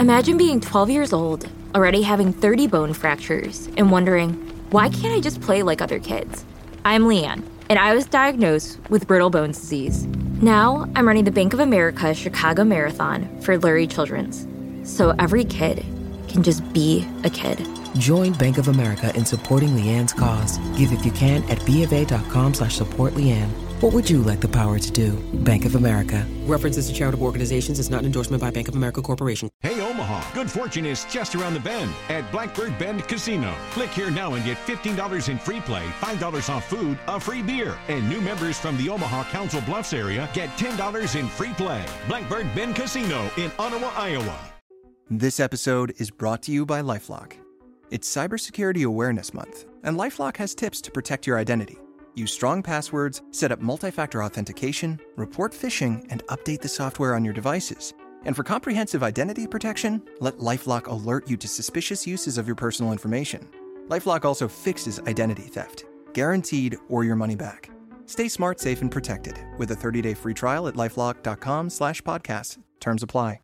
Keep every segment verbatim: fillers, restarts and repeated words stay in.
Imagine being twelve years old, already having thirty bone fractures, and wondering, why can't I just play like other kids? I'm Leanne, and I was diagnosed with brittle bones disease. Now, I'm running the Bank of America Chicago Marathon for Lurie Children's, so every kid can just be a kid. Join Bank of America in supporting Leanne's cause. Give if you can at bofa.com slash support Leanne. What would you like the power to do? Bank of America. References to charitable organizations is not an endorsement by Bank of America Corporation. Hey, Omaha, good fortune is just around the bend at Blackbird Bend Casino. Click here now and get fifteen dollars in free play, five dollars off food, a free beer. And new members from the Omaha Council Bluffs area get ten dollars in free play. Blackbird Bend Casino in Ottawa, Iowa. This episode is brought to you by LifeLock. It's Cybersecurity Awareness Month, and LifeLock has tips to protect your identity. Use strong passwords, set up multi-factor authentication, report phishing, and update the software on your devices. And for comprehensive identity protection, let LifeLock alert you to suspicious uses of your personal information. LifeLock also fixes identity theft, guaranteed or your money back. Stay smart, safe, and protected with a thirty-day free trial at LifeLock.com slash podcast. Terms apply.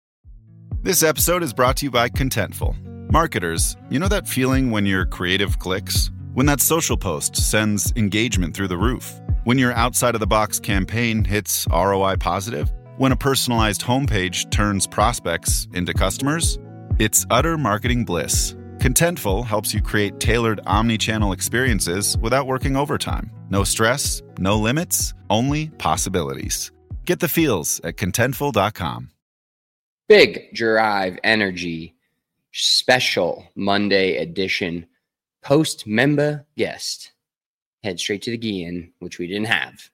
This episode is brought to you by Contentful. Marketers, you know that feeling when your creative clicks? When that social post sends engagement through the roof? When your outside-of-the-box campaign hits R O I positive? When a personalized homepage turns prospects into customers? It's utter marketing bliss. Contentful helps you create tailored omni-channel experiences without working overtime. No stress, no limits, only possibilities. Get the feels at contentful dot com. Big Drive Energy special Monday edition. Post-member guest. Head straight to the Guillen, which we didn't have.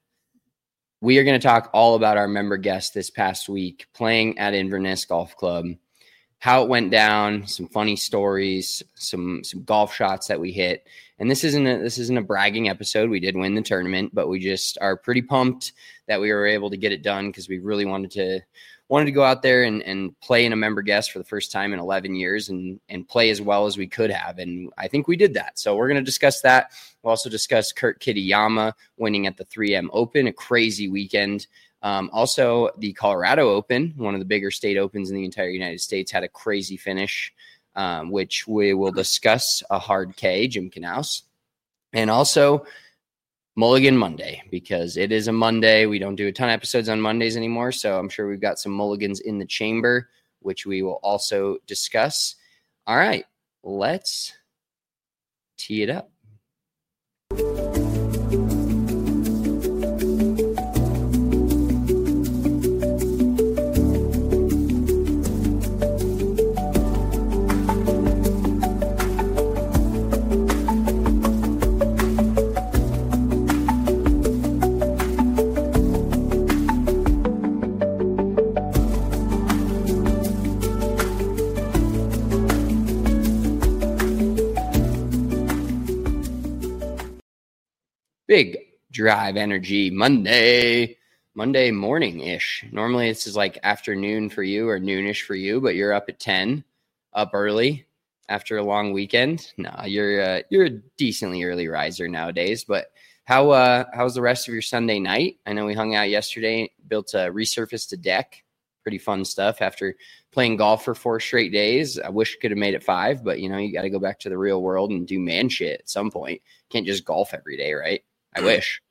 We are going to talk all about our member guest this past week, playing at Inverness Golf Club, how it went down, some funny stories, some some golf shots that we hit. And this isn't a, this isn't a bragging episode. We did win the tournament, but we just are pretty pumped that we were able to get it done because we really wanted to wanted to go out there and, and play in a member guest for the first time in eleven years and, and play as well as we could have. And I think we did that. So we're going to discuss that. We'll also discuss Kurt Kitayama winning at the three M Open, a crazy weekend. Um, also, the Colorado Open, one of the bigger state opens in the entire United States, had a crazy finish, um, which we will discuss. A hard K, Jim Knaus. And also Mulligan Monday, because it is a Monday. We don't do a ton of episodes on Mondays anymore, so I'm sure we've got some mulligans in the chamber, which we will also discuss. All right, let's tee it up. Big Drive Energy Monday, Monday morning-ish. Normally this is like afternoon for you or noonish for you, but you're up at ten, up early after a long weekend. No, you're uh, you're a decently early riser nowadays. But how uh, how's the rest of your Sunday night? I know we hung out yesterday, built a resurfaced a deck. Pretty fun stuff after playing golf for four straight days. I wish I could have made it five, but you know, you got to go back to the real world and do man shit at some point. Can't just golf every day, right? I wish.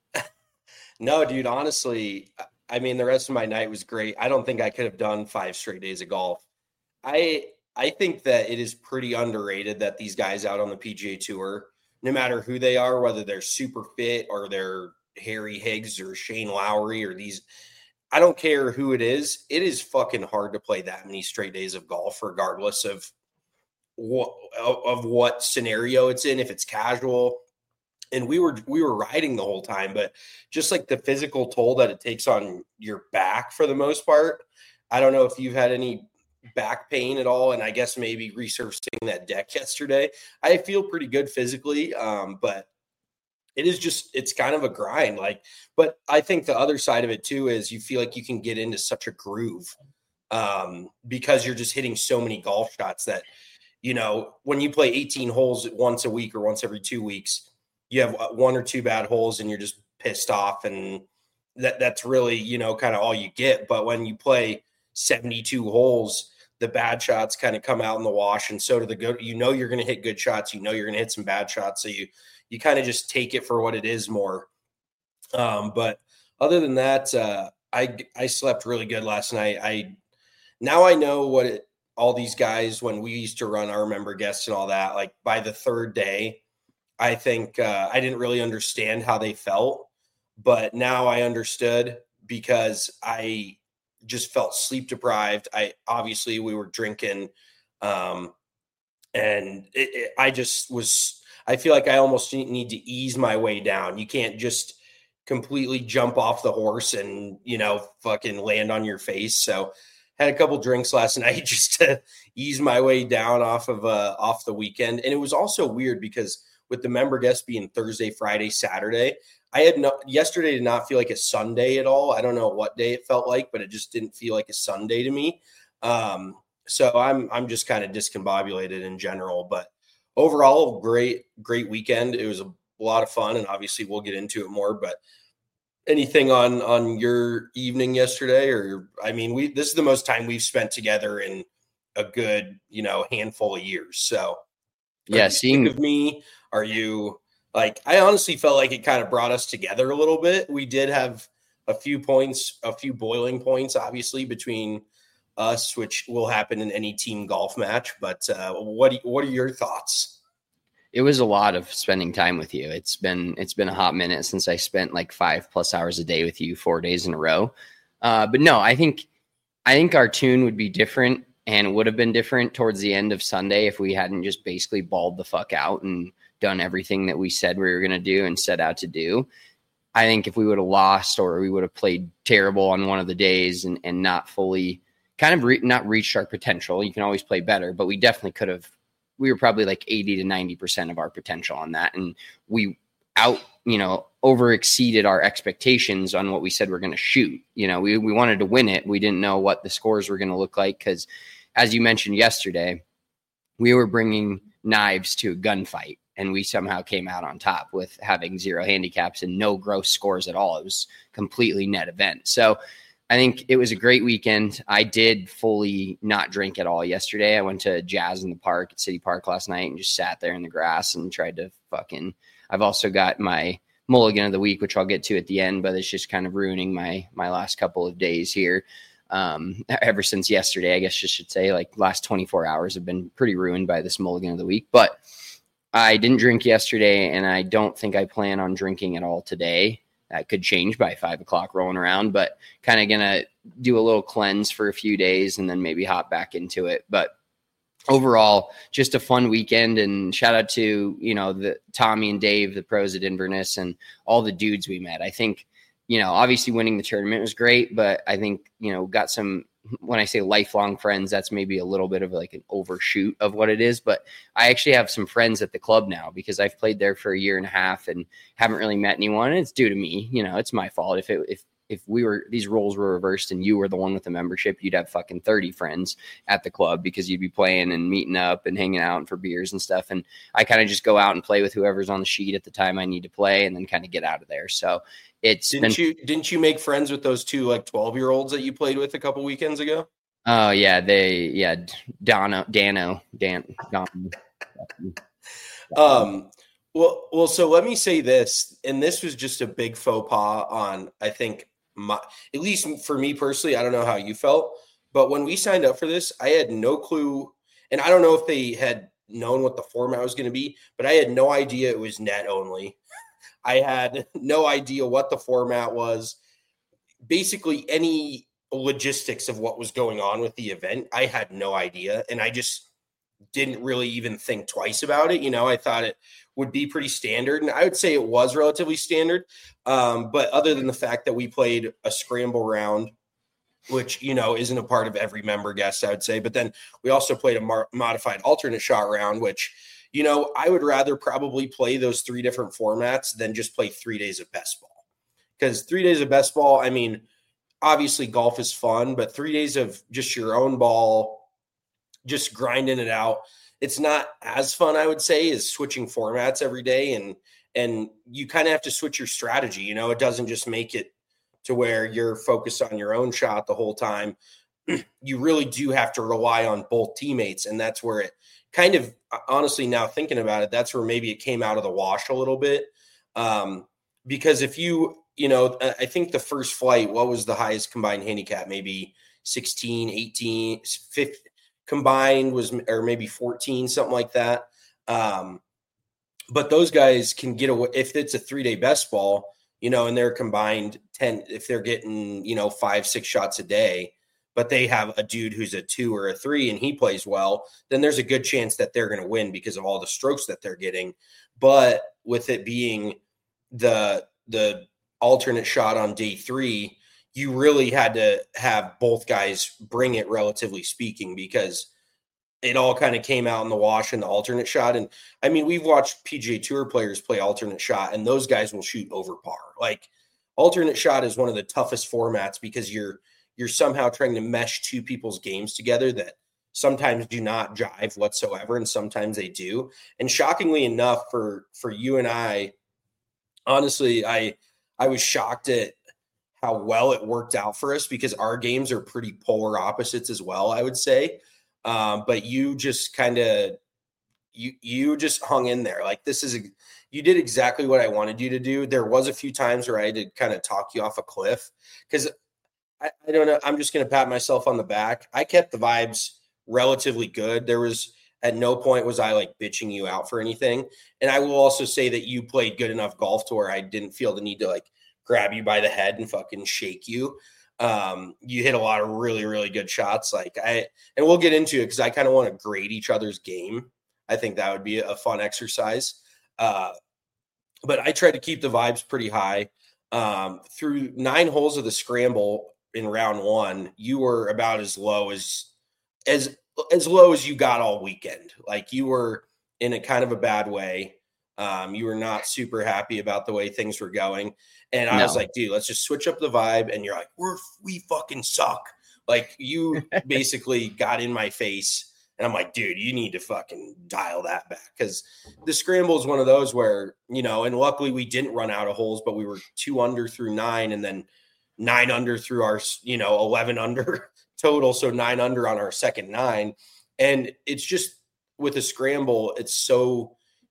No, dude, honestly, I mean, the rest of my night was great. I don't think I could have done five straight days of golf. I I think that it is pretty underrated that these guys out on the P G A Tour, no matter who they are, whether they're super fit or they're Harry Higgs or Shane Lowry or these, I don't care who it is. It is fucking hard to play that many straight days of golf, regardless of what, of what scenario it's in, if it's casual. And we were we were riding the whole time, but just like the physical toll that it takes on your back for the most part. I don't know if you've had any back pain at all, and I guess maybe resurfacing that deck yesterday. I feel pretty good physically, um, but it is just it's kind of a grind. Like, but I think the other side of it too is you feel like you can get into such a groove um, because you're just hitting so many golf shots that, you know, when you play eighteen holes once a week or once every two weeks. You have one or two bad holes and you're just pissed off. And that that's really, you know, kind of all you get. But when you play seventy-two holes, the bad shots kind of come out in the wash, and so do the good. You know you're going to hit good shots. You know you're going to hit some bad shots. So you you kind of just take it for what it is more. Um, but other than that, uh, I I slept really good last night. I now I know what it, all these guys, when we used to run our member guests and all that, like by the third day, I think uh, I didn't really understand how they felt, but now I understood because I just felt sleep deprived. I obviously we were drinking, um, and it, it, I just was. I feel like I almost need to ease my way down. You can't just completely jump off the horse and, you know, fucking land on your face. So had a couple drinks last night just to ease my way down off of uh off the weekend. And it was also weird because with the member guests being Thursday, Friday, Saturday, I had no yesterday did not feel like a Sunday at all. I don't know what day it felt like, but it just didn't feel like a Sunday to me. Um, so I'm I'm just kind of discombobulated in general, but overall, great, great weekend. It was a lot of fun, and obviously we'll get into it more, but anything on, on your evening yesterday? Or, I mean, we, this is the most time we've spent together in a good, you know, handful of years. So yeah, seeing of me, are you like, I honestly felt like it kind of brought us together a little bit. We did have a few points, a few boiling points, obviously between us, which will happen in any team golf match. But uh, what do, what are your thoughts? It was a lot of spending time with you. It's been it's been a hot minute since I spent like five plus hours a day with you four days in a row. Uh, but no, I think I think our tune would be different, and would have been different towards the end of Sunday if we hadn't just basically balled the fuck out and done everything that we said we were going to do and set out to do. I think if we would have lost, or we would have played terrible on one of the days and, and not fully kind of re- not reached our potential. You can always play better, but we definitely could have. We were probably like eighty to ninety percent of our potential on that. And we out, you know, over exceeded our expectations on what we said we're going to shoot. You know, we, we wanted to win it. We didn't know what the scores were going to look like. Cause as you mentioned yesterday, we were bringing knives to a gunfight, and we somehow came out on top with having zero handicaps and no gross scores at all. It was completely net event. So I think it was a great weekend. I did fully not drink at all yesterday. I went to jazz in the park at City Park last night and just sat there in the grass and tried to fucking, I've also got my mulligan of the week, which I'll get to at the end, but it's just kind of ruining my, my last couple of days here. Um, ever since yesterday, I guess you should say, like last twenty-four hours have been pretty ruined by this mulligan of the week, but I didn't drink yesterday, and I don't think I plan on drinking at all today. That could change by five o'clock rolling around, but kind of going to do a little cleanse for a few days and then maybe hop back into it. But overall, just a fun weekend, and shout out to, you know, the Tommy and Dave, the pros at Inverness, and all the dudes we met. I think, you know, obviously winning the tournament was great, but I think, you know, got some, when I say lifelong friends, that's maybe a little bit of like an overshoot of what it is. But I actually have some friends at the club now because I've played there for a year and a half and haven't really met anyone. And it's due to me. You know, it's my fault. If it, if, if we were, these roles were reversed and you were the one with the membership, you'd have fucking thirty friends at the club because you'd be playing and meeting up and hanging out and for beers and stuff. And I kind of just go out and play with whoever's on the sheet at the time I need to play and then kind of get out of there. So it's didn't been, you, didn't you make friends with those two like twelve year olds that you played with a couple weekends ago? Oh yeah. They, yeah. Dano, Dano, Dan, Don. um, well, well, so let me say this, and this was just a big faux pas on, I think, my, at least for me personally, I don't know how you felt, but when we signed up for this, I had no clue. And I don't know if they had known what the format was going to be, but I had no idea it was net only. I had no idea what the format was. Basically any logistics of what was going on with the event, I had no idea. And I just didn't really even think twice about it. You know, I thought it would be pretty standard, and I would say it was relatively standard. Um, but other than the fact that we played a scramble round, which, you know, isn't a part of every member guest, I would say, but then we also played a mar- modified alternate shot round, which, you know, I would rather probably play those three different formats than just play three days of best ball. Because three days of best ball, I mean, obviously golf is fun, but three days of just your own ball, just grinding it out, it's not as fun, I would say, as switching formats every day. And, and you kind of have to switch your strategy. You know, it doesn't just make it to where you're focused on your own shot the whole time. you really do have to rely on both teammates. And that's where it kind of, honestly, now thinking about it, that's where maybe it came out of the wash a little bit. Um, because if you, you know, I think the first flight, what was the highest combined handicap? Maybe sixteen, eighteen, fifteen combined was, or maybe fourteen, something like that. Um, but those guys can get away if it's a three day best ball, you know, and they're combined ten, if they're getting, you know, five, six shots a day, but they have a dude who's a two or a three and he plays well, then there's a good chance that they're going to win because of all the strokes that they're getting. But with it being the, the alternate shot on day three, you really had to have both guys bring it, relatively speaking, because it all kind of came out in the wash in the alternate shot. And I mean, we've watched P G A Tour players play alternate shot, and those guys will shoot over par. Like, alternate shot is one of the toughest formats because you're you're somehow trying to mesh two people's games together that sometimes do not jive whatsoever, and sometimes they do. And shockingly enough, for for you and I, honestly, I I was shocked at how well it worked out for us because our games are pretty polar opposites as well, I would say. Um, but you just kind of, you, you just hung in there. Like, this is, a, you did exactly what I wanted you to do. There was a few times where I had to kind of talk you off a cliff because I, I don't know. I'm just going to pat myself on the back. I kept the vibes relatively good. There was, at no point was I like bitching you out for anything. And I will also say that you played good enough golf to where I didn't feel the need to like grab you by the head and fucking shake you. Um, you hit a lot of really, really good shots. Like I, and we'll get into it because I kind of want to grade each other's game. I think that would be a fun exercise. Uh, but I tried to keep the vibes pretty high. Um, through nine holes of the scramble in round one, you were about as low as, as, as low as you got all weekend. Like, you were in a kind of a bad way. Um, you were not super happy about the way things were going. And I no. was like, dude, let's just switch up the vibe. And you're like, we're, we fucking suck. Like, you basically got in my face. And I'm like, dude, you need to fucking dial that back. Because the scramble is one of those where, you know, and luckily we didn't run out of holes, but we were two under through nine and then nine under through our, you know, eleven under total. So nine under on our second nine. And it's just with a scramble, it's so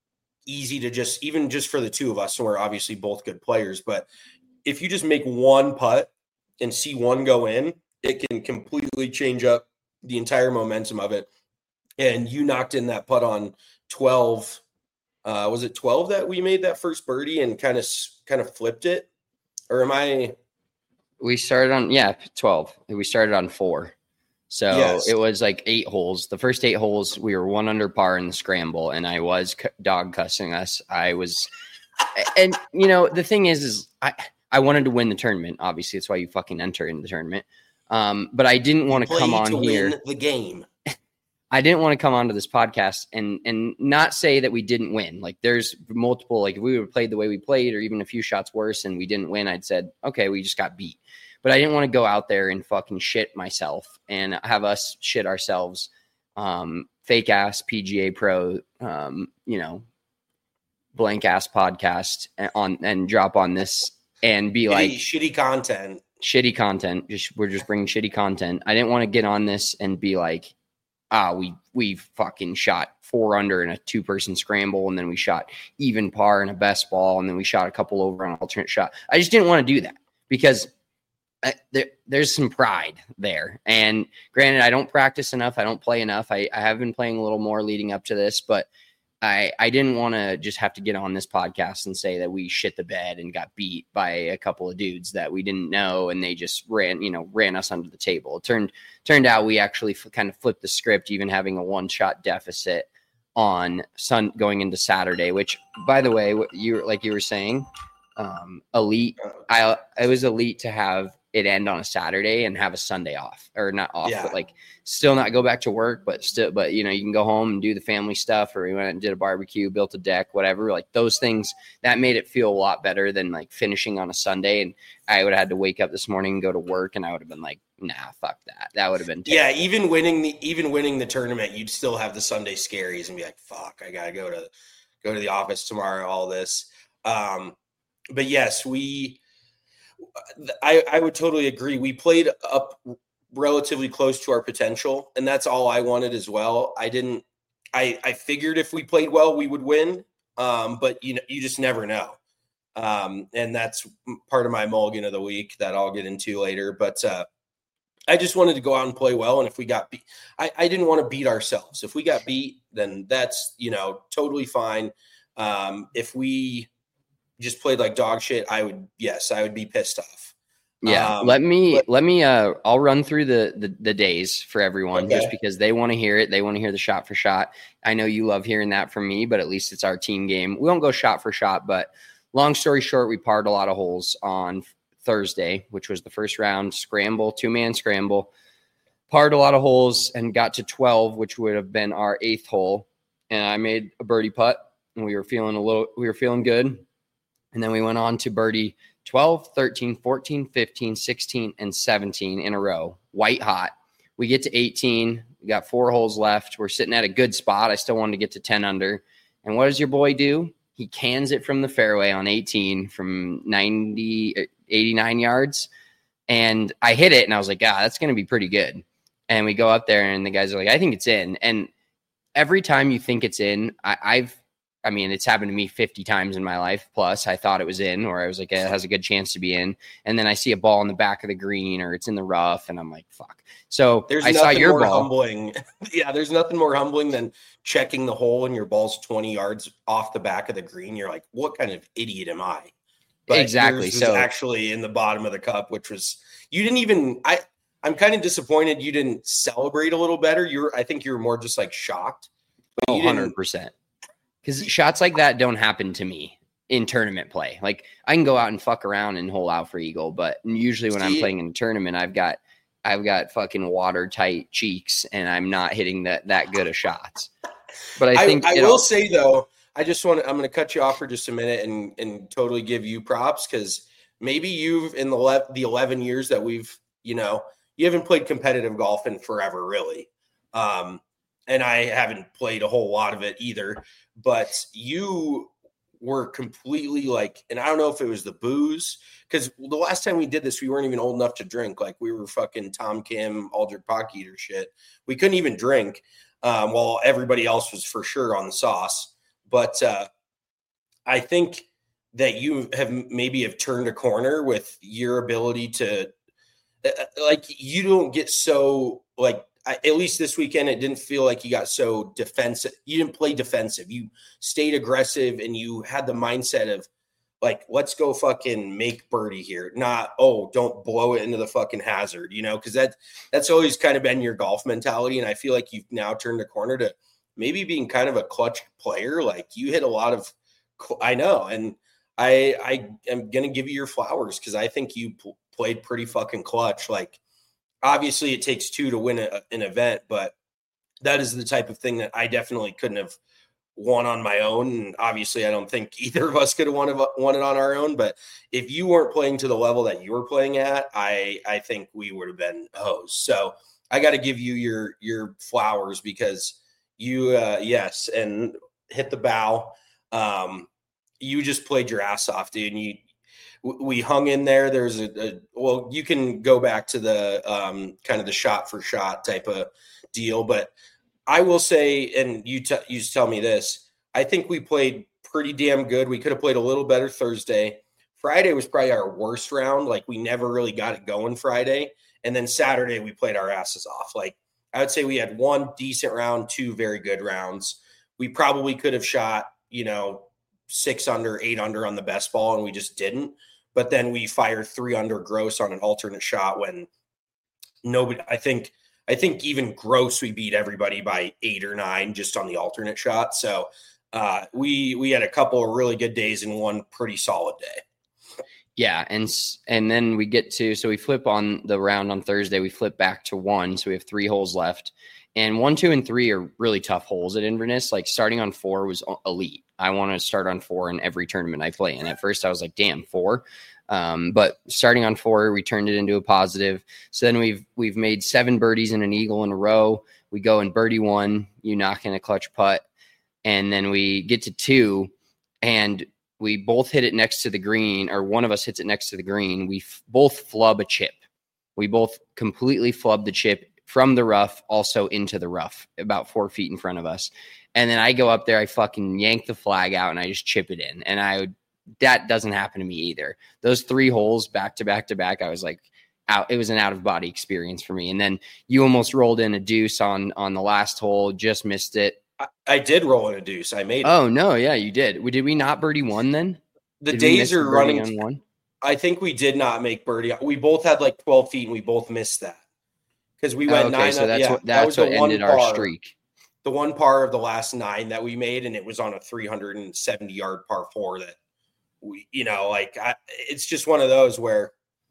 easy to just, even just for the two of us, so we're obviously both good players, but if you just make one putt and see one go in, it can completely change up the entire momentum of it. And you knocked in that putt on twelve. Uh, was it twelve that we made that first birdie and kind of kind of flipped it? Or am I? We started on, yeah, twelve. We started on four. So yes. It was like eight holes. The first eight holes, we were one under par in the scramble, and I was c- dog cussing us. I was, and you know, the thing is, is I, I wanted to win the tournament. Obviously, that's why you fucking enter in the tournament. Um, but I didn't want to come on to here. Win the game. I didn't want to come onto this podcast and and not say that we didn't win. Like, there's multiple, like if we would have played the way we played, or even a few shots worse, and we didn't win, I'd said, okay, we just got beat. But I didn't want to go out there and fucking shit myself and have us shit ourselves. Um, fake ass P G A Pro, um, you know, blank ass podcast on and drop on this and be shitty, like shitty content, shitty content. Just we're just bringing shitty content. I didn't want to get on this and be like, ah, we we fucking shot four under in a two person scramble, and then we shot even par in a best ball, and then we shot a couple over on an alternate shot. I just didn't want to do that because I, there, there's some pride there. And granted, I don't practice enough. I don't play enough. I, I have been playing a little more leading up to this, but I, I didn't want to just have to get on this podcast and say that we shit the bed and got beat by a couple of dudes that we didn't know. And they just ran, you know, ran us under the table. It turned, turned out we actually f- kind of flipped the script, even having a one shot deficit on sun going into Saturday, which, by the way, what you like you were saying, um, elite, I, it was elite to have it end on a Saturday and have a Sunday off, or not off, yeah. but like still not go back to work, but still, but you know, you can go home and do the family stuff, or we went and did a barbecue, built a deck, whatever, like those things that made it feel a lot better than like finishing on a Sunday. And I would have had to wake up this morning and go to work, and I would have been like, nah, fuck that. That would have been terrible. Yeah. Even winning the, even winning the tournament, you'd still have the Sunday scaries and be like, fuck, I gotta go to, go to the office tomorrow, all this. Um, but yes, we, I, I would totally agree. We played up relatively close to our potential, and that's all I wanted as well. I didn't. I I figured if we played well, we would win, um, but you know, you just never know. Um, and that's part of my mulligan of the week that I'll get into later. But uh, I just wanted to go out and play well. And if we got beat, I, I didn't want to beat ourselves. If we got beat, then that's, you know, totally fine. Um, if we just played like dog shit, I would, yes, I would be pissed off. Yeah. Um, let me, but, let me, uh, I'll run through the, the, the days for everyone okay. just because they want to hear it. They want to hear the shot for shot. I know you love hearing that from me, but at least it's our team game. We won't go shot for shot, but long story short, we parred a lot of holes on Thursday, which was the first round scramble, two-man scramble. Parred a lot of holes and got to twelve, which would have been our eighth hole. And I made a birdie putt, and we were feeling a little, we were feeling good. And then we went on to birdie twelve, thirteen, fourteen, fifteen, sixteen, and seventeen in a row, white hot. We get to eighteen. We got four holes left. We're sitting at a good spot. I still wanted to get to ten under. And what does your boy do? He cans it from the fairway on eighteen from ninety, eighty-nine yards. And I hit it, and I was like, ah, that's going to be pretty good. And we go up there, and the guys are like, I think it's in. And every time you think it's in, I, I've, I mean, it's happened to me fifty times in my life. Plus, I thought it was in, or I was like, it has a good chance to be in. And then I see a ball in the back of the green, or it's in the rough, and I'm like, fuck. So there's I saw your more ball. Humbling. Yeah, there's nothing more humbling than checking the hole and your ball's twenty yards off the back of the green. You're like, what kind of idiot am I? But exactly. Yours was so actually in the bottom of the cup, which was, you didn't even, I, I'm kind of disappointed you didn't celebrate a little better. You were, I think you were more just like shocked. But oh, you one hundred percent. Because shots like that don't happen to me in tournament play. Like I can go out and fuck around and hole out for eagle, but usually when I'm playing in a tournament, I've got I've got fucking watertight cheeks, and I'm not hitting that that good of shots. But I think I, I will all, say though, I just want to, I'm going to cut you off for just a minute and and totally give you props, because maybe you've in the le- the eleven years that we've, you know, you haven't played competitive golf in forever, really. Um, and I haven't played a whole lot of it either, but you were completely like, and I don't know if it was the booze, because the last time we did this, we weren't even old enough to drink. Like we were fucking Tom Kim, Aldrich Pock Eater shit. We couldn't even drink, um, while everybody else was for sure on the sauce. But uh, I think that you have maybe have turned a corner with your ability to, uh, like, you don't get so like, I, at least this weekend, it didn't feel like you got so defensive. You didn't play defensive. You stayed aggressive, and you had the mindset of like, let's go fucking make birdie here. Not, oh, don't blow it into the fucking hazard, you know, because that that's always kind of been your golf mentality. And I feel like you've now turned a corner to maybe being kind of a clutch player. Like you hit a lot of, I know. And I, I am going to give you your flowers, because I think you pl- played pretty fucking clutch. Like, obviously, it takes two to win a, an event, but that is the type of thing that I definitely couldn't have won on my own. And obviously, I don't think either of us could have won it, won it on our own. But if you weren't playing to the level that you were playing at, I I think we would have been hosed. So I got to give you your your flowers, because you, uh, yes, and hit the bow. Um, you just played your ass off, dude. And you. We hung in there. There's a, a well, you can go back to the um, kind of the shot for shot type of deal, but I will say, and you t- you tell me this, I think we played pretty damn good. We could have played a little better Thursday. Friday was probably our worst round. Like we never really got it going Friday, and then Saturday we played our asses off. Like I would say we had one decent round, two very good rounds. We probably could have shot, you know, six under, eight under on the best ball, and we just didn't. But then we fired three under gross on an alternate shot when nobody, I think, I think even gross, we beat everybody by eight or nine just on the alternate shot. So uh, we, we had a couple of really good days and one pretty solid day. Yeah. And, and then we get to, so we flip on the round on Thursday, we flip back to one. So we have three holes left, and one, two, and three are really tough holes at Inverness. Like starting on four was elite. I want to start on four in every tournament I play. And at first I was like, damn, four. Um, but starting on four, we turned it into a positive. So then we've, we've made seven birdies and an eagle in a row. We go in birdie one, you knock in a clutch putt. And then we get to two, and we both hit it next to the green, or one of us hits it next to the green. We f- both flub a chip. We both completely flubbed the chip from the rough, also into the rough, about four feet in front of us. And then I go up there, I fucking yank the flag out, and I just chip it in. And I would, that doesn't happen to me either. Those three holes back to back to back, I was like, out. It was an out of body experience for me. And then you almost rolled in a deuce on on the last hole, just missed it. I, I did roll in a deuce. I made it. Oh no, yeah, you did. Did we not birdie one then? The did days are running on one. I think we did not make birdie. We both had like twelve feet, and we both missed that because we went oh, okay, nine. So that's yeah, what that's that what ended our par, streak. The one par of the last nine that we made, and it was on a three hundred seventy yard par four. That we, you know, like I, it's just one of those where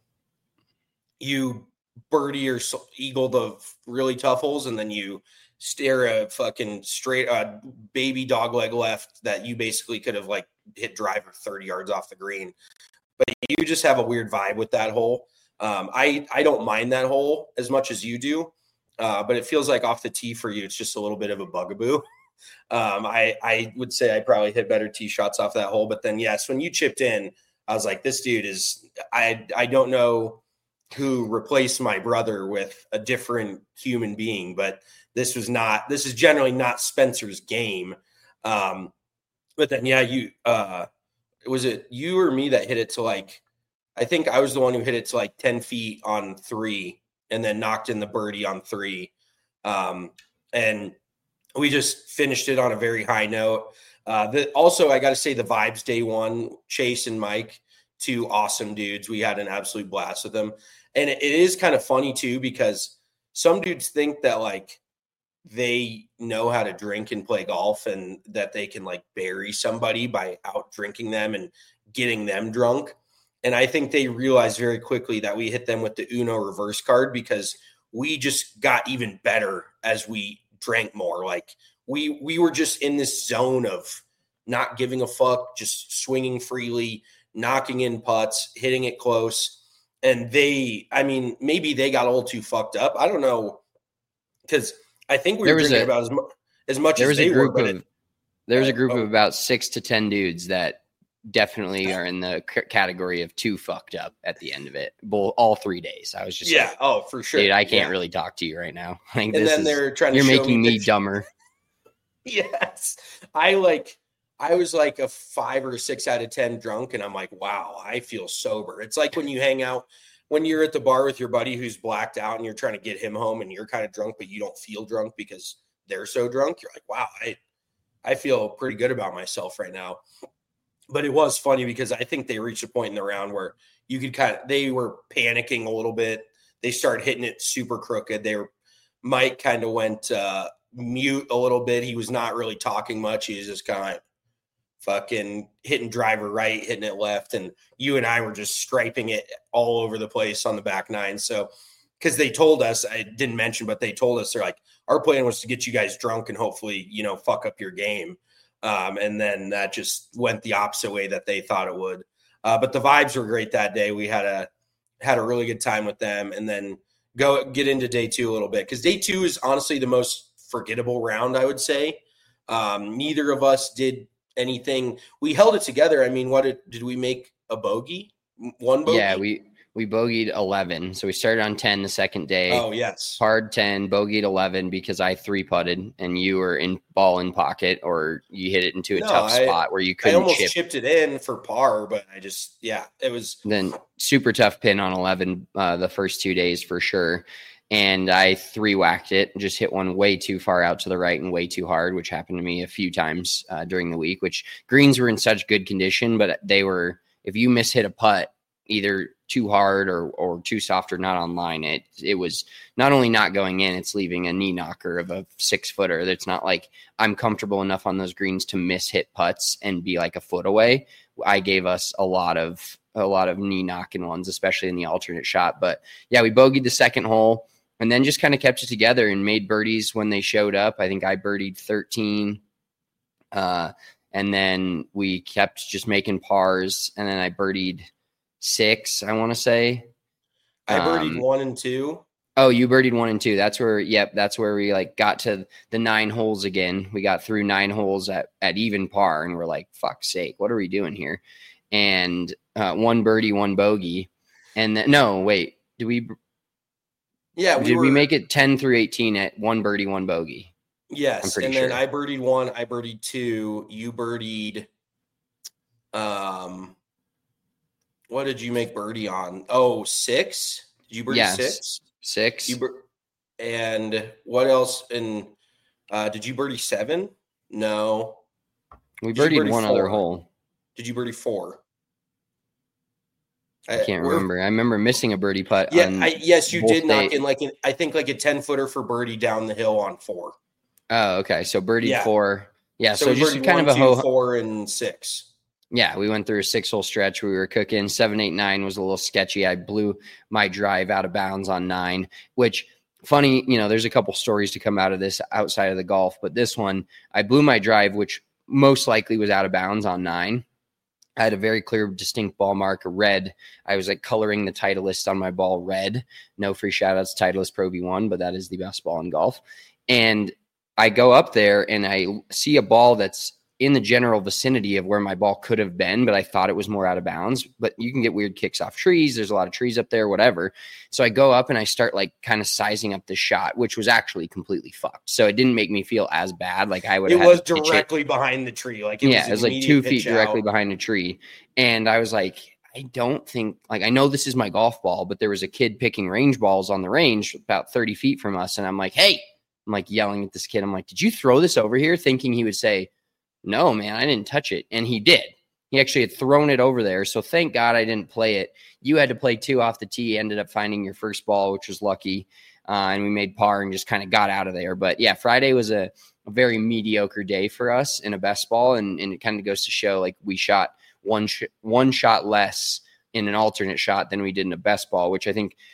you birdie or eagle the really tough holes, and then you stare a fucking straight uh, baby dog leg left that you basically could have like hit driver thirty yards off the green. But you just have a weird vibe with that hole. Um, I, I don't mind that hole as much as you do, uh, but it feels like off the tee for you, it's just a little bit of a bugaboo. Um, I, I would say I probably hit better tee shots off that hole. But then, yes, when you chipped in, I was like, this dude is – I I don't know who replaced my brother with a different human being, but this was not – this is generally not Spencer's game. Um, but then, yeah, you uh, – was it you or me that hit it to like, I think I was the one who hit it to like ten feet on three and then knocked in the birdie on three. Um, and we just finished it on a very high note. Uh, the, also, I got to say the vibes day one, Chase and Mike, two awesome dudes. We had an absolute blast with them. And it, it is kind of funny too, because some dudes think that like, they know how to drink and play golf and that they can like bury somebody by out drinking them and getting them drunk. And I think they realized very quickly that we hit them with the Uno reverse card because we just got even better as we drank more. Like we, we were just in this zone of not giving a fuck, just swinging freely, knocking in putts, hitting it close. And they, I mean, maybe they got a little too fucked up. I don't know. Cause I think we were drinking a, about as, mu- as much there as was they a group were. Of, it, there was a group oh. of about six to ten dudes that definitely are in the c- category of too fucked up at the end of it. Both, all three days. I was just yeah. like, oh, for sure. Dude, I can't yeah. really talk to you right now. Like, and this then is, they're trying to you're show making me, me dumber. Yes. I like, I was like a five or six out of ten drunk. And I'm like, wow, I feel sober. It's like when you hang out, when you're at the bar with your buddy who's blacked out and you're trying to get him home and you're kind of drunk, but you don't feel drunk because they're so drunk. You're like, wow, I, I feel pretty good about myself right now. But it was funny because I think they reached a point in the round where you could kind of, they were panicking a little bit. They started hitting it super crooked. They were, Mike kind of went uh, mute a little bit. He was not really talking much. He was just kind of fucking hitting driver right, hitting it left. And you and I were just striping it all over the place on the back nine. So, because they told us, I didn't mention, but they told us, they're like, our plan was to get you guys drunk and hopefully, you know, fuck up your game. Um, and then that just went the opposite way that they thought it would. Uh, but the vibes were great that day. We had a, had a really good time with them, and then go get into day two a little bit. Cause day two is honestly the most forgettable round, I would say. Um, neither of us did anything. We held it together. I mean, what did, did we make a bogey? One bogey? Yeah, we, We bogeyed eleven. So we started on ten the second day. Oh, yes. Hard ten, bogeyed eleven because I three putted and you were in ball in pocket, or you hit it into a no, tough I, spot where you couldn't I almost chip. chipped it in for par, but I just, yeah, it was. Then super tough pin on eleven uh, the first two days for sure. And I three whacked it, just hit one way too far out to the right and way too hard, which happened to me a few times uh, during the week, which greens were in such good condition, but they were, if you miss hit a putt, either too hard or or too soft or not online, it it was not only not going in, it's leaving a knee knocker of a six footer. It's not like I'm comfortable enough on those greens to miss hit putts and be like a foot away. I gave us a lot of a lot of knee knocking ones, especially in the alternate shot. But yeah, we bogeyed the second hole and then just kind of kept it together and made birdies when they showed up. I think I birdied thirteen. Uh, and then we kept just making pars, and then I birdied six, I want to say. I birdied um, one and two. Oh, you birdied one and two. That's where, yep, that's where we like got to the nine holes again. We got through nine holes at, at even par, and we're like, fuck's sake, what are we doing here? And uh, one birdie, one bogey. And then, no, wait, do we, Yeah, we did were, we make it ten through eighteen at one birdie, one bogey? Yes, and sure. then I birdied one, I birdied two, you birdied. Um, what did you make birdie on? Oh, six. Did you birdie yes. six? Six. You bir- and what else? And uh, did you birdie seven? No. We Did you birdied birdie one four? other hole. Did you birdie four? I can't remember. I remember missing a birdie putt. Yeah, on I, yes, you did knock day. in like an, I think like a ten footer for birdie down the hill on four. Oh, okay. So birdie Yeah. four. Yeah. So, So, we just birdied kind one, of a two, ho. four, and six. Yeah, we went through a six hole stretch. We were cooking. Seven, eight, nine was a little sketchy. I blew my drive out of bounds on nine, which funny, you know, there's a couple stories to come out of this outside of the golf, but this one, I blew my drive, which most likely was out of bounds on nine. I had a very clear, distinct ball mark, a red. I was like coloring the Titleist on my ball red. No free shout outs to Titleist Pro V one, but that is the best ball in golf. And I go up there and I see a ball that's in the general vicinity of where my ball could have been, but I thought it was more out of bounds. But you can get weird kicks off trees. There's a lot of trees up there, whatever. So I go up and I start like kind of sizing up the shot, which was actually completely fucked. So it didn't make me feel as bad. Like I would have It had was to pitch directly it. behind the tree. Like it yeah, was it was like immediate two feet pitch directly out. behind a tree. And I was like, I don't think, like, I know this is my golf ball, but there was a kid picking range balls on the range about thirty feet from us. And I'm like, hey, I'm like yelling at this kid. I'm like, did you throw this over here? Thinking he would say, no, man, I didn't touch it. And he did. He actually had thrown it over there. So thank God I didn't play it. You had to play two off the tee, ended up finding your first ball, which was lucky. Uh, and we made par and just kind of got out of there. But yeah, Friday was a, a very mediocre day for us in a best ball. And, and it kind of goes to show like we shot one, sh- one shot less in an alternate shot than we did in a best ball, which I think,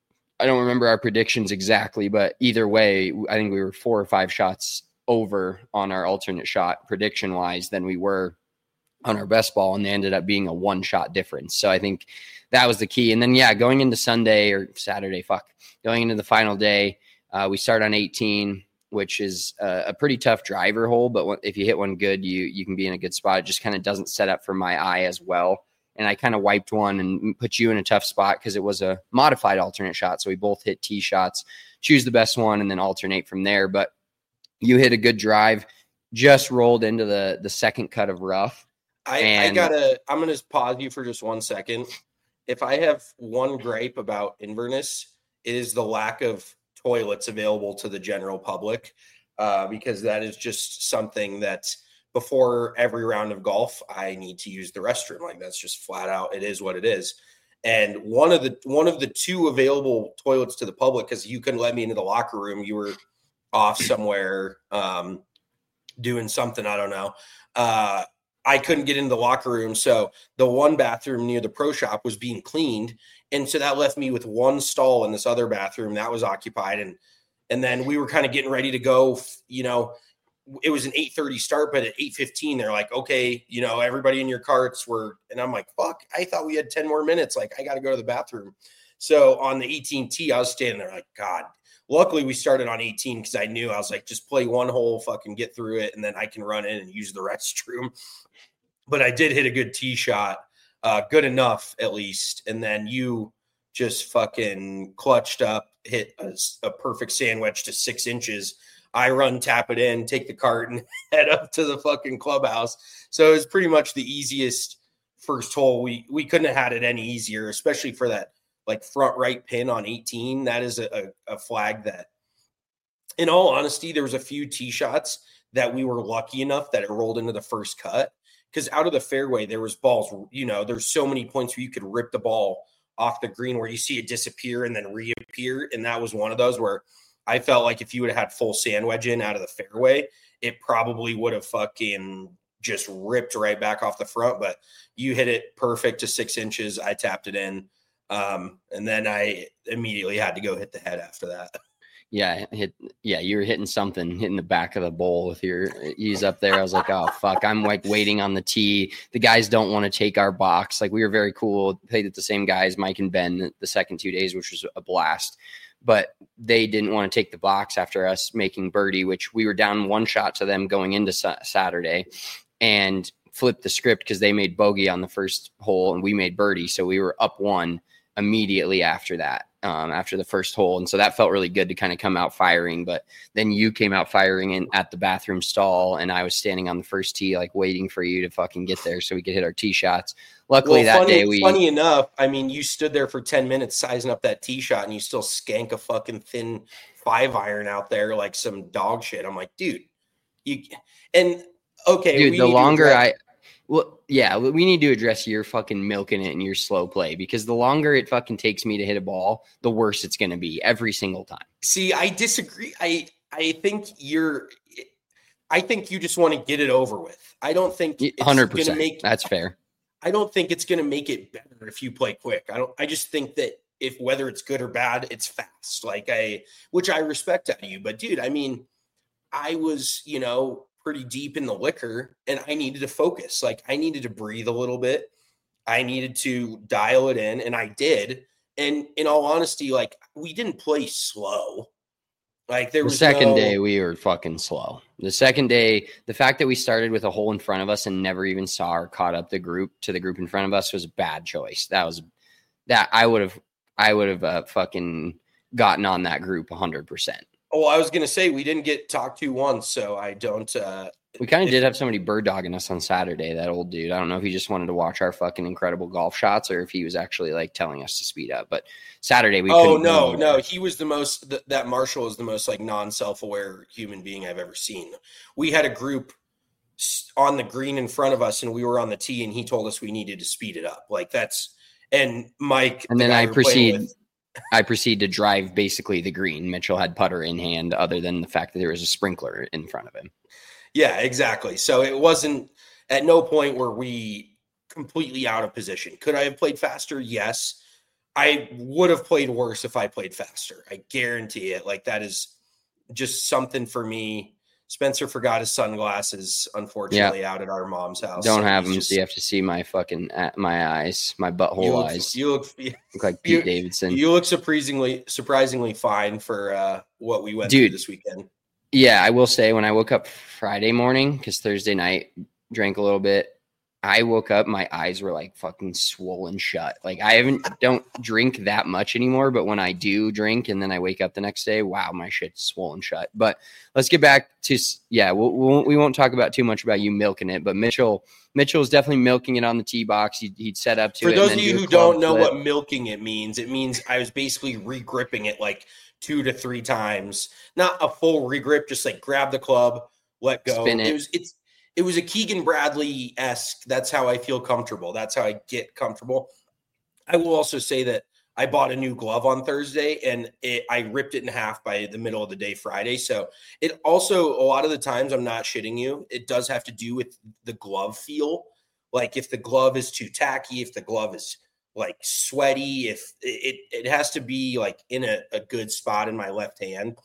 I don't remember our predictions exactly, but either way, I think we were four or five shots over on our alternate shot prediction wise than we were on our best ball. And they ended up being a one shot difference. So I think that was the key. And then, yeah, going into Sunday or Saturday, fuck, going into the final day, uh, we start on eighteen, which is a, a pretty tough driver hole. But if you hit one good, you, you can be in a good spot. It just kind of doesn't set up for my eye as well. And I kind of wiped one and put you in a tough spot because it was a modified alternate shot. So we both hit tee shots, choose the best one, and then alternate from there. But you hit a good drive, just rolled into the, the second cut of rough. I, and, I gotta, I'm going to pause you for just one second. If I have one gripe about Inverness, it is the lack of toilets available to the general public, uh, because that is just something that before every round of golf, I need to use the restroom. Like that's just flat out. It is what it is. And one of the, one of the two available toilets to the public, cause you couldn't let me into the locker room. You were off somewhere, um, doing something. I don't know. Uh, I couldn't get into the locker room. So the one bathroom near the pro shop was being cleaned. And so that left me with one stall in this other bathroom that was occupied. And, and then we were kind of getting ready to go, you know, it was an eight thirty start, but at eight fifteen, they're like, okay, you know, everybody in your carts were, and I'm like, fuck, I thought we had ten more minutes. Like I got to go to the bathroom. So on the eighteen tee, I was standing there like, God, luckily we started on eighteen. Cause I knew I was like, just play one hole, fucking get through it. And then I can run in and use the restroom. But I did hit a good tee shot, uh, good enough at least. And then you just fucking clutched up, hit a, a perfect sandwich to six inches. I run, tap it in, take the cart and head up to the fucking clubhouse. So it was pretty much the easiest first hole. We, we couldn't have had it any easier, especially for that like front right pin on eighteen. That is a, a, a flag that, in all honesty, there was a few tee shots that we were lucky enough that it rolled into the first cut. Because out of the fairway, there was balls, you know, there's so many points where you could rip the ball off the green where you see it disappear and then reappear. And that was one of those where I felt like if you would have had full sand wedge in out of the fairway, it probably would have fucking just ripped right back off the front. But you hit it perfect to six inches. I tapped it in. Um, and then I immediately had to go hit the head after that. Yeah, hit. Yeah, you were hitting something, hitting the back of the bowl with your ease up there. I was like, oh, fuck. I'm like waiting on the tee. The guys don't want to take our box. Like we were very cool. Played with the same guys, Mike and Ben, the second two days, which was a blast. But they didn't want to take the box after us making birdie, which we were down one shot to them going into sa- Saturday and flipped the script because they made bogey on the first hole and we made birdie. So we were up one immediately after that. um, after the first hole. And so that felt really good to kind of come out firing. But then you came out firing in at the bathroom stall, and I was standing on the first tee, like waiting for you to fucking get there so we could hit our tee shots. Luckily, well, that funny, day we. Funny enough, I mean, you stood there for ten minutes sizing up that tee shot, and you still skank a fucking thin five iron out there like some dog shit. I'm like, dude, you and okay, dude. we The longer address- I. Well, yeah, we need to address your fucking milking it and your slow play, because the longer it fucking takes me to hit a ball, the worse it's going to be every single time. See, I disagree. I I think you're. I think you just want to get it over with. I don't think it's one hundred percent. Gonna make. That's fair. I don't think it's going to make it better if you play quick. I don't. I just think that if whether it's good or bad, it's fast. Like I, which I respect out of you. But dude, I mean, I was, you know, pretty deep in the liquor, and I needed to focus. Like I needed to breathe a little bit. I needed to dial it in, and I did. And in all honesty, like we didn't play slow. Like there the was second no, day we were fucking slow. The second day, the fact that we started with a hole in front of us and never even saw or caught up the group to the group in front of us was a bad choice. That was that I would have I would have uh, fucking gotten on that group one hundred percent. Oh, I was gonna say we didn't get talked to once, so I don't. Uh, we kind of if, did have somebody bird dogging us on Saturday. That old dude. I don't know if he just wanted to watch our fucking incredible golf shots or if he was actually like telling us to speed up. But Saturday we. Oh no, no, he was the most. Th- that Marshall is the most like non-self-aware human being I've ever seen. We had a group on the green in front of us, and we were on the tee, and he told us we needed to speed it up. Like that's and Mike. And the then guy I we were playing proceed. with, I proceed to drive basically the green. Mitchell had putter in hand, other than the fact that there was a sprinkler in front of him. Yeah, exactly. So it wasn't at no point were we completely out of position. Could I have played faster? Yes. I would have played worse if I played faster. I guarantee it. Like that is just something for me. Spencer forgot his sunglasses, unfortunately, yeah. out at our mom's house. Don't so have them, just, so you have to see my fucking my eyes, my butthole you look, eyes. You look, you look like Pete you, Davidson. You look surprisingly, surprisingly fine for uh, what we went Dude, through this weekend. Yeah, I will say when I woke up Friday morning, because Thursday night drank a little bit, I woke up, my eyes were like fucking swollen shut. Like I haven't don't drink that much anymore, but when I do drink and then I wake up the next day, wow, my shit's swollen shut. But let's get back to yeah, we'll, we'll, we won't talk about too much about you milking it, but Mitchell Mitchell is definitely milking it on the tee box. He'd, he'd set up to For it. For those and of then you do who don't know flip. what milking it means, it means I was basically re-gripping it like two to three times, not a full regrip, just like grab the club, let go. Spin it. It was it's it was a Keegan Bradley-esque. That's how I feel comfortable. That's how I get comfortable. I will also say that I bought a new glove on Thursday, and it, I ripped it in half by the middle of the day Friday. So it also, a lot of the times, I'm not shitting you, it does have to do with the glove feel. Like if the glove is too tacky, if the glove is like sweaty, if it, it has to be like in a, a good spot in my left hand.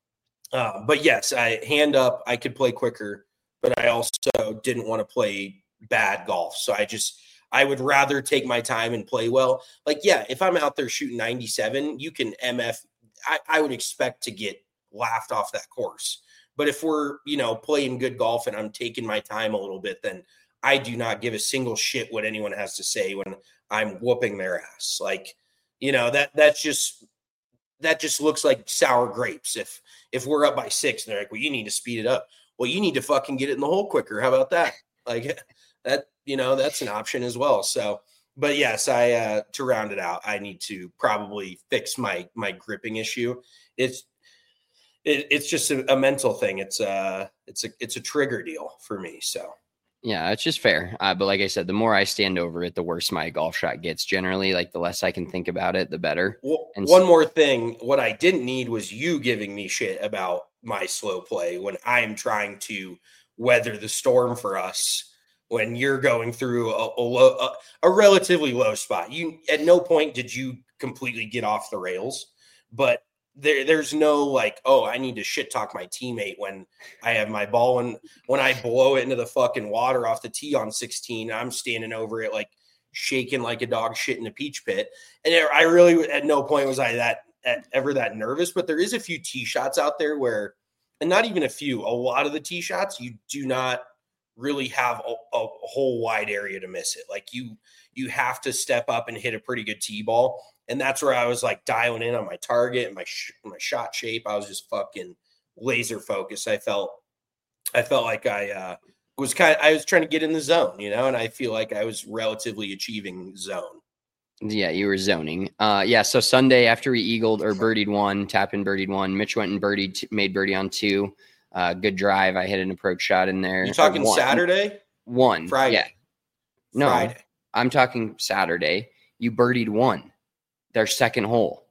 Uh, but yes, I hand up, I could play quicker, but I also didn't want to play bad golf. So I just, I would rather take my time and play well. Like, yeah, if I'm out there shooting ninety-seven, you can M F. I, I would expect to get laughed off that course. But if we're, you know, playing good golf and I'm taking my time a little bit, then I do not give a single shit what anyone has to say when I'm whooping their ass. Like, you know, that that's just that just looks like sour grapes. If if we're up by six and they're like, well, you need to speed it up. Well, you need to fucking get it in the hole quicker. How about that? Like that, you know, that's an option as well. So, but yes, I uh to round it out, I need to probably fix my my gripping issue. It's it, it's just a, a mental thing. It's a it's a it's a trigger deal for me. So. Yeah, it's just fair. Uh, but like I said, the more I stand over it, the worse my golf shot gets. Generally, like the less I can think about it, the better. Well, and one so- more thing, what I didn't need was you giving me shit about my slow play when I'm trying to weather the storm for us. When you're going through a, a, low, a, a relatively low spot, you at no point did you completely get off the rails, but there, there's no like, oh, I need to shit talk my teammate when I have my ball and when I blow it into the fucking water off the tee on sixteen, I'm standing over it like shaking like a dog shit in a peach pit. And I really, at no point was I that at, ever that nervous. But there is a few tee shots out there where, and not even a few, a lot of the tee shots you do not really have a, a whole wide area to miss it. Like you, you have to step up and hit a pretty good tee ball. And that's where I was like dialing in on my target and my, sh- my shot shape. I was just fucking laser focused. I felt, I felt like I uh, was kind of, I was trying to get in the zone, you know, and I feel like I was relatively achieving zone. Yeah, you were zoning. Uh, yeah, so Sunday after we eagled or birdied one, tap in birdied one, Mitch went and birdied, t- made birdie on two. Uh, good drive. I hit an approach shot in there. You talking one. Saturday? One. Friday. Yeah. No, Friday. I'm talking Saturday. You birdied one, their second hole.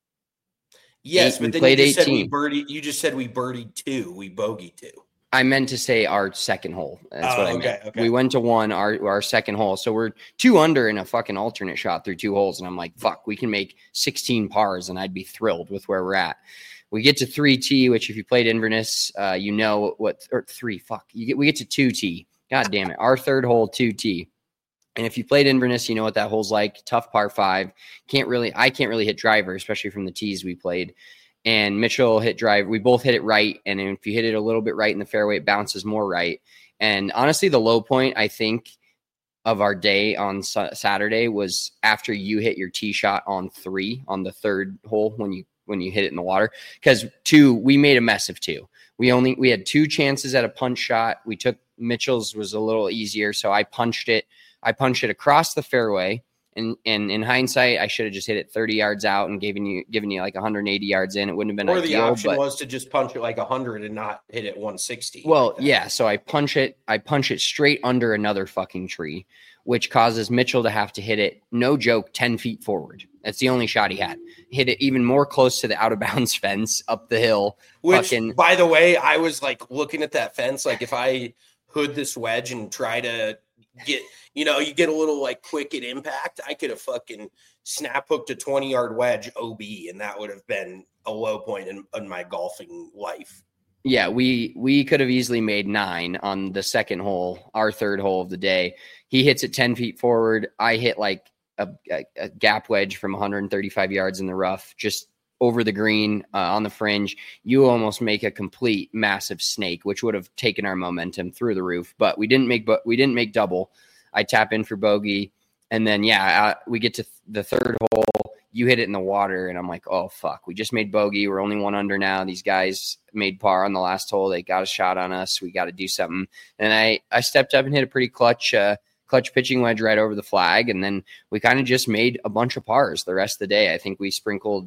Yes, Eight, but then played you just eighteen. said we birdied. You just said we birdied two. We bogeyed two. I meant to say our second hole. That's oh, what I okay, meant. Okay. We went to one, our our second hole. So we're two under in a fucking alternate shot through two holes. And I'm like, fuck, we can make sixteen pars and I'd be thrilled with where we're at. We get to three T, which if you played Inverness, uh, you know what, or three, fuck. You get, we get to two T. God damn it. Our third hole, two T. And if you played Inverness, you know what that hole's like. Tough par five. Can't really, I can't really hit driver, especially from the tees we played. And Mitchell hit drive. We both hit it right. And if you hit it a little bit right in the fairway, it bounces more right. And honestly, the low point, I think, of our day on Saturday was after you hit your tee shot on three on the third hole when you when you hit it in the water. Because two, we made a mess of two. We only we had two chances at a punch shot. We took Mitchell's was a little easier, so I punched it. I punched it across the fairway. And, and in hindsight, I should have just hit it thirty yards out and given you given you like one hundred eighty yards in. It wouldn't have been or ideal. Or the option but, was to just punch it like one hundred and not hit it one sixty. Well, like yeah. So I punch it. I punch it straight under another fucking tree, which causes Mitchell to have to hit it, no joke, ten feet forward. That's the only shot he had. Hit it even more close to the out of bounds fence up the hill. Which, fucking, by the way, I was like looking at that fence. Like if I hood this wedge and try to get, you know, you get a little like quick at impact, I could have fucking snap hooked a twenty yard wedge O B, and that would have been a low point in, in my golfing life. Yeah, we we could have easily made nine on the second hole, our third hole of the day. He hits it ten feet forward. I hit like a, a, a gap wedge from one hundred thirty-five yards in the rough, just over the green uh, on the fringe. You almost make a complete massive snake, which would have taken our momentum through the roof. But we didn't make, but we didn't make double. I tap in for bogey, and then yeah, uh, we get to th- the third hole. You hit it in the water, and I'm like, oh, fuck. We just made bogey. We're only one under now. These guys made par on the last hole. They got a shot on us. We got to do something. And I, I stepped up and hit a pretty clutch uh, clutch pitching wedge right over the flag, and then we kind of just made a bunch of pars the rest of the day. I think we sprinkled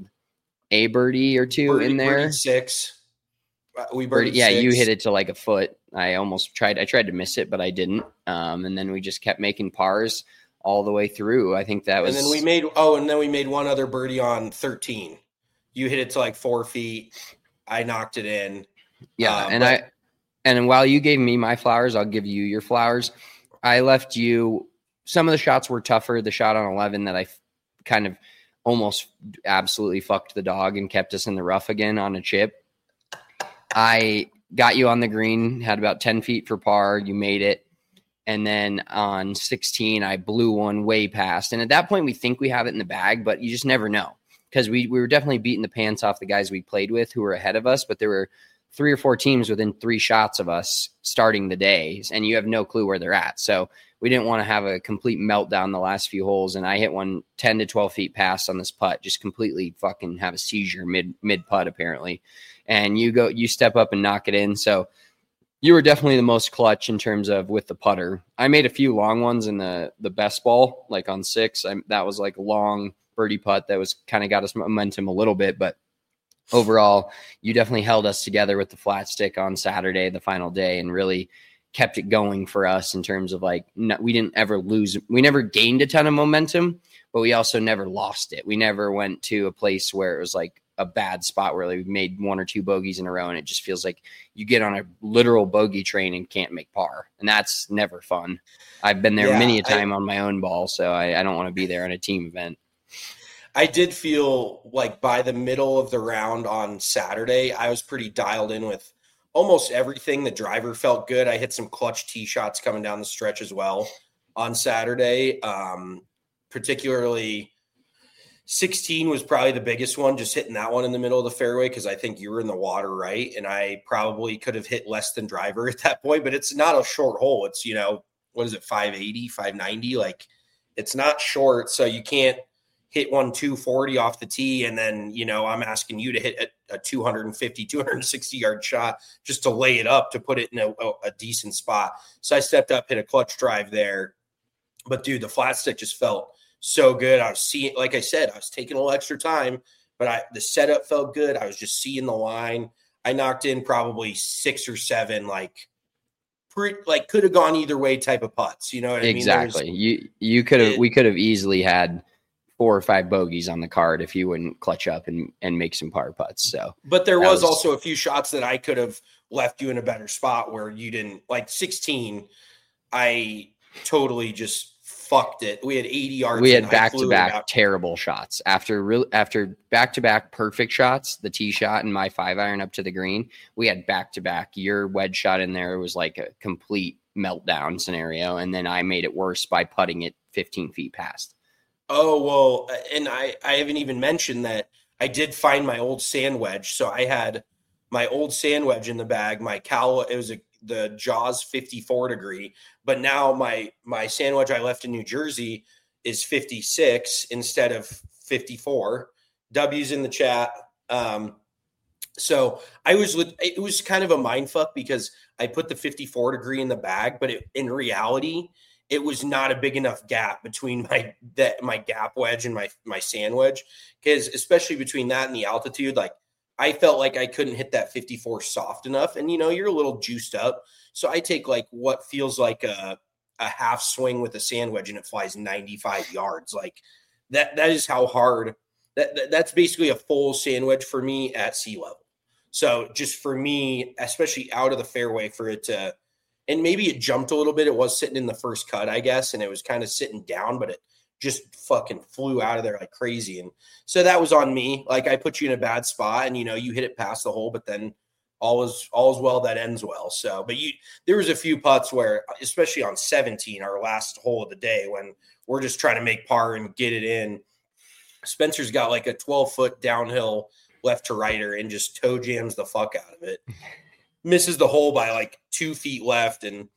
a birdie or two birdie, in there. Birdie six. We birdied birdie, yeah, six. you hit it to like a foot. I almost tried. I tried to miss it, but I didn't. Um, and then we just kept making pars all the way through. I think that was. And then we made oh, and then we made one other birdie on thirteen. You hit it to like four feet. I knocked it in. Yeah, uh, and but, I and while you gave me my flowers, I'll give you your flowers. I left you. Some of the shots were tougher. The shot on eleven that I f- kind of almost absolutely fucked the dog and kept us in the rough again on a chip. I got you on the green, had about ten feet for par. You made it. And then on sixteen, I blew one way past. And at that point, we think we have it in the bag, but you just never know. Because we, we were definitely beating the pants off the guys we played with who were ahead of us. But there were three or four teams within three shots of us starting the day. And you have no clue where they're at. So we didn't want to have a complete meltdown the last few holes. And I hit one ten to twelve feet past on this putt, just completely fucking have a seizure mid mid putt, apparently. And you go, you step up and knock it in. So you were definitely the most clutch in terms of with the putter. I made a few long ones in the the best ball, like on six. I, that was like a long birdie putt that was kind of got us momentum a little bit. But overall, you definitely held us together with the flat stick on Saturday, the final day, and really kept it going for us in terms of like, no, we didn't ever lose. We never gained a ton of momentum, but we also never lost it. We never went to a place where it was like a bad spot where like we made one or two bogeys in a row. And it just feels like you get on a literal bogey train and can't make par. And that's never fun. I've been there yeah, many a time I, on my own ball. So I, I don't want to be there on a team event. I did feel like by the middle of the round on Saturday, I was pretty dialed in with almost everything. The driver felt good. I hit some clutch tee shots coming down the stretch as well on Saturday. Um, particularly sixteen was probably the biggest one, just hitting that one in the middle of the fairway because I think you were in the water, right? And I probably could have hit less than driver at that point, but it's not a short hole. It's, you know, what is it, five eighty, five ninety? Like, it's not short, so you can't hit one two forty off the tee, and then, you know, I'm asking you to hit a, a two fifty, two sixty yard shot just to lay it up, to put it in a, a decent spot. So I stepped up, hit a clutch drive there. But, dude, the flat stick just felt so good. I was seeing, like I said, I was taking a little extra time, but I the setup felt good. I was just seeing the line. I knocked in probably six or seven, like, pre, like could have gone either way type of putts. You know what I mean? Exactly. You you could have we could have easily had four or five bogeys on the card if you wouldn't clutch up and, and make some par putts. So, but there was, was also a few shots that I could have left you in a better spot where you didn't, like sixteen. I totally just fucked it. We had eighty yards. We had back to back terrible shots after real after back to back perfect shots. The tee shot and my five iron up to the green. We had back to back. Your wedge shot in there was like a complete meltdown scenario, and then I made it worse by putting it fifteen feet past. Oh well, and I I haven't even mentioned that I did find my old sand wedge. So I had my old sand wedge in the bag. My Cal, it was a the Jaws fifty-four degree, but now my my sand wedge I left in New Jersey is fifty-six instead of fifty-four. W's in the chat. Um, so I was it was kind of a mind fuck because I put the fifty-four degree in the bag, but it, in reality, it was not a big enough gap between my that my gap wedge and my my sand wedge, because especially between that and the altitude, like, I felt like I couldn't hit that fifty-four soft enough. And, you know, you're a little juiced up. So I take like what feels like a, a half swing with a sand wedge and it flies ninety-five yards. Like that, that is how hard that, that that's basically a full sand wedge for me at sea level. So just for me, especially out of the fairway, for it to, and maybe it jumped a little bit. It was sitting in the first cut, I guess. And it was kind of sitting down, but it just fucking flew out of there like crazy. And so that was on me. Like, I put you in a bad spot and, you know, you hit it past the hole, but then all is, all is well that ends well. So, but you, there was a few putts where, especially on seventeen, our last hole of the day, when we're just trying to make par and get it in, Spencer's got like a twelve foot downhill left to righter and just toe jams the fuck out of it. Misses the hole by like two feet left and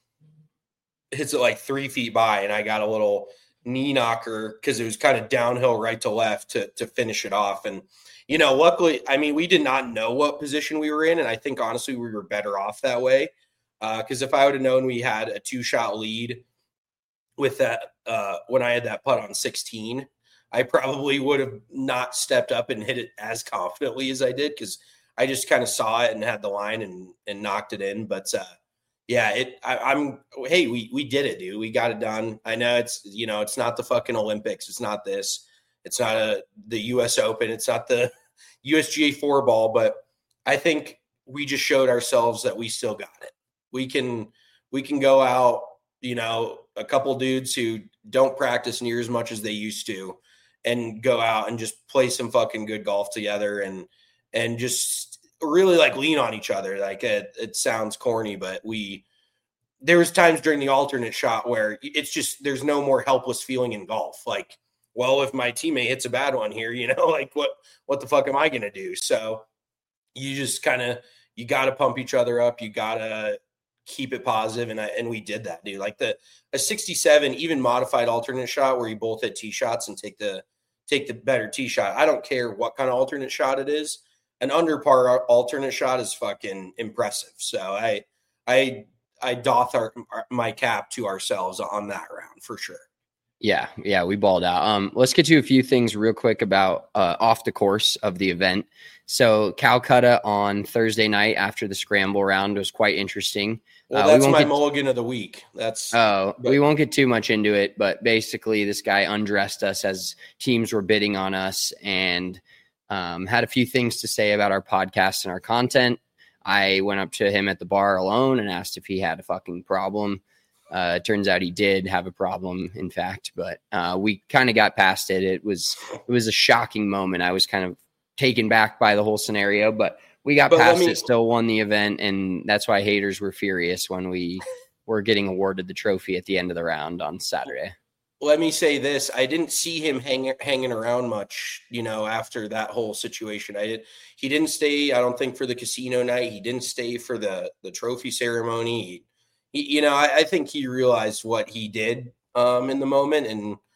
hits it like three feet by. And I got a little knee knocker because it was kind of downhill right to left to to finish it off. And, you know, luckily, I mean, we did not know what position we were in. And I think, honestly, we were better off that way. Because uh, if I would have known we had a two-shot lead with that, uh, when I had that putt on sixteen, I probably would have not stepped up and hit it as confidently as I did, because I just kind of saw it and had the line and and knocked it in. But uh, yeah, it. I, I'm. Hey, we we did it, dude. We got it done. I know it's you know it's not the fucking Olympics. It's not this. It's not a the U S Open. It's not the U S G A four ball. But I think we just showed ourselves that we still got it. We can we can go out. You know, a couple dudes who don't practice near as much as they used to, and go out and just play some fucking good golf together, and and just really like lean on each other. Like it, it sounds corny, but we, there was times during the alternate shot where it's just, there's no more helpless feeling in golf. Like, well, if my teammate hits a bad one here, you know, like what, what the fuck am I going to do? So you just kind of, you got to pump each other up. You got to keep it positive. And I, and we did that, dude. Like the, a sixty-seven, even modified alternate shot where you both hit tee shots and take the, take the better tee shot. I don't care what kind of alternate shot it is. An under par alternate shot is fucking impressive. So I, I, I doff our, my cap to ourselves on that round for sure. Yeah. Yeah. We balled out. Um, let's get to a few things real quick about, uh, off the course of the event. So Calcutta on Thursday night after the scramble round was quite interesting. Well, that's uh, we my get, mulligan of the week. That's oh, but, we won't get too much into it, but basically this guy undressed us as teams were bidding on us, and Um, had a few things to say about our podcast and our content. I went up to him at the bar alone and asked if he had a fucking problem. Uh, it turns out he did have a problem, in fact, but uh, we kind of got past it. It was it was a shocking moment. I was kind of taken back by the whole scenario, but we got but past me, it, still won the event, and that's why haters were furious when we were getting awarded the trophy at the end of the round on Saturday. Let me say this. I didn't see him hang, hanging around much, you know, after that whole situation. I did. He didn't stay, I don't think, for the casino night. He didn't stay for the, the trophy ceremony. He, he, you know, I, I think he realized what he did um, in the moment. And,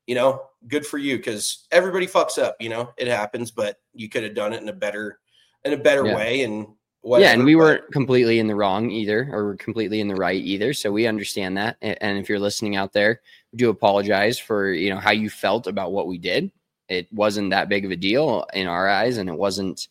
you know, good for you, because everybody fucks up, you know, it happens, but you could have done it in a better, in a better yeah. way. And whatever, yeah, and we but, weren't completely in the wrong either, or completely in the right either. So we understand that. And if you're listening out there, we do apologize for, you know, how you felt about what we did. It wasn't that big of a deal in our eyes, and it wasn't,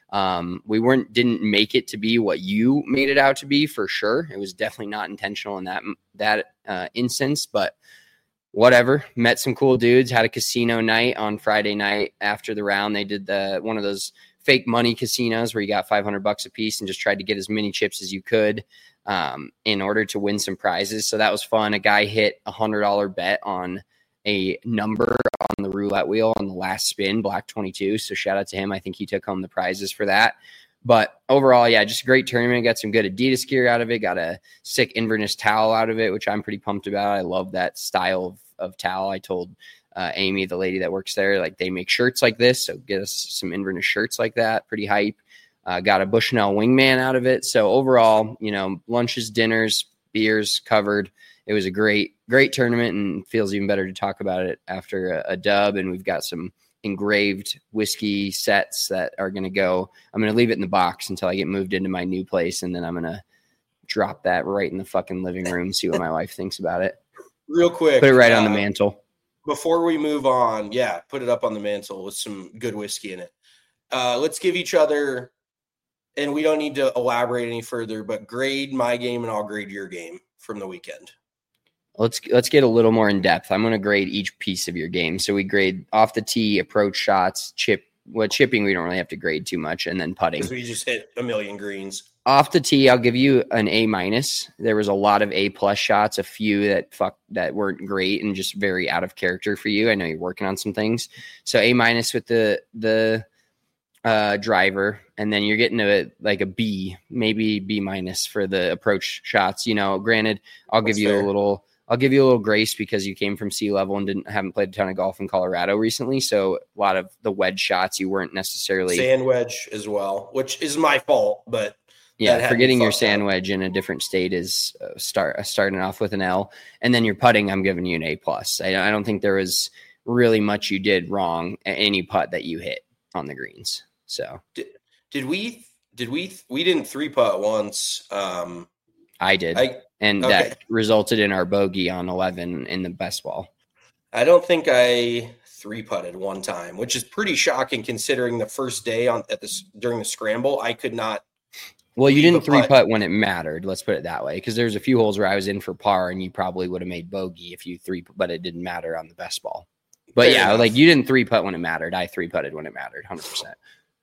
um, we weren't, didn't make it to be what you made it out to be, for sure. It was definitely not intentional in that, that uh, instance, but whatever. Met some cool dudes, had a casino night on Friday night after the round. They did the, one of those fake money casinos where you got five hundred bucks a piece and just tried to get as many chips as you could um, in order to win some prizes. So that was fun. A guy hit a hundred dollar bet on a number on the roulette wheel on the last spin, black twenty-two. So shout out to him. I think he took home the prizes for that. But overall, yeah, just a great tournament. Got some good Adidas gear out of it. Got a sick Inverness towel out of it, which I'm pretty pumped about. I love that style of, of towel. I told uh, Amy, the lady that works there, like they make shirts like this. So get us some Inverness shirts like that. Pretty hype. Uh, got a Bushnell wingman out of it. So overall, you know, lunches, dinners, beers covered. It was a great, great tournament, and feels even better to talk about it after a, a dub. And we've got some engraved whiskey sets that are going to go. I'm going to leave it in the box until I get moved into my new place, and then I'm going to drop that right in the fucking living room, see what my wife thinks about it. Real quick. Put it right uh, on the uh, mantle. Before we move on, yeah, put it up on the mantle with some good whiskey in it. Uh, let's give each other, and we don't need to elaborate any further, but grade my game and I'll grade your game from the weekend. Let's let's get a little more in depth. I'm going to grade each piece of your game. So we grade off the tee, approach shots, chip. Well, chipping we don't really have to grade too much, and then putting. Because we just hit a million greens. Off the tee, I'll give you an A minus. There was a lot of A plus shots, a few that fuck that weren't great and just very out of character for you. I know you're working on some things, so A minus with the the uh, driver, and then you're getting a like a B, maybe B minus for the approach shots. You know, granted, I'll That's give you fair. a little. I'll give you a little grace because you came from sea level and didn't haven't played a ton of golf in Colorado recently. So a lot of the wedge shots you weren't necessarily sand wedge as well, which is my fault. But yeah, forgetting your sand wedge in a different state is uh, start uh, starting off with an L, and then your putting. I'm giving you an A plus. I, I don't think there was really much you did wrong at any putt that you hit on the greens. So did, did we did we we didn't three putt once? Um, I did. I, And okay. that resulted in our bogey on eleven in the best ball. I don't think I three putted one time, which is pretty shocking considering the first day on at this during the scramble. I could not. Well, you didn't three putt. putt when it mattered. Let's put it that way, because there's a few holes where I was in for par, and you probably would have made bogey if you three, but it didn't matter on the best ball. But Fair yeah, enough. like you didn't three putt when it mattered. I three putted when it mattered, hundred percent.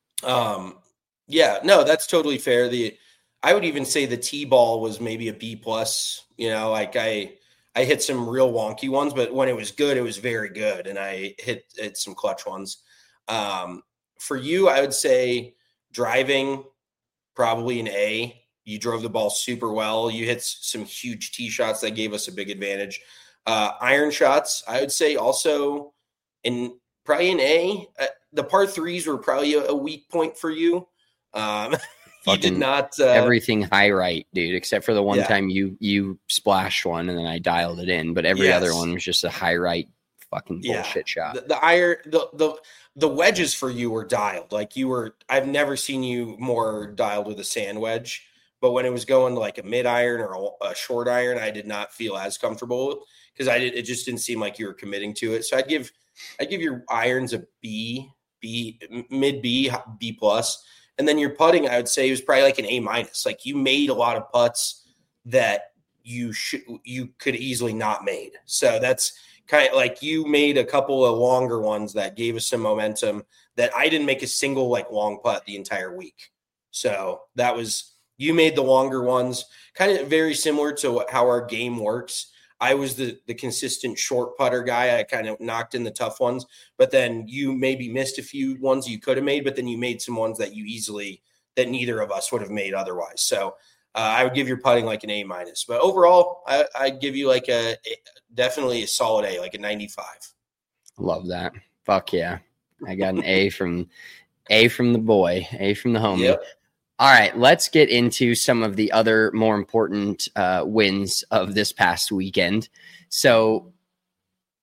Um, yeah, no, that's totally fair. The I would even say the tee ball was maybe a B plus. You know, like I I hit some real wonky ones, but when it was good, it was very good, and I hit hit some clutch ones. Um, for you, I would say driving probably an A. You drove the ball super well. You hit some huge tee shots that gave us a big advantage. Uh, iron shots, I would say also in probably an A. Uh, the par threes were probably a, a weak point for you. Um, you did not uh, everything high right, dude, except for the one yeah. time you you splashed one and then I dialed it in. But every Yes. other one was just a high right fucking bullshit yeah. shot. The, the iron, the, the the wedges for you were dialed. Like you were, I've never seen you more dialed with a sand wedge. But when it was going to like a mid iron or a, a short iron, I did not feel as comfortable because I did. It just didn't seem like you were committing to it. So I'd give, I'd give your irons a B, B, mid B, B plus, and then your putting, I would say, was probably like an A minus. Like you made a lot of putts that you should, you could easily not made. So that's kind of like you made a couple of longer ones that gave us some momentum that I didn't make a single like long putt the entire week. So that was. You made the longer ones, kind of very similar to what, how our game works. I was the the consistent short putter guy. I kind of knocked in the tough ones, but then you maybe missed a few ones you could have made, but then you made some ones that you easily, that neither of us would have made otherwise. So uh, I would give your putting like an A minus, but overall I, I'd give you like a, a definitely a solid A, like a ninety-five. Love that. Fuck yeah. I got an A from A from the boy, A from the homie. Yep. All right, let's get into some of the other more important uh, wins of this past weekend. So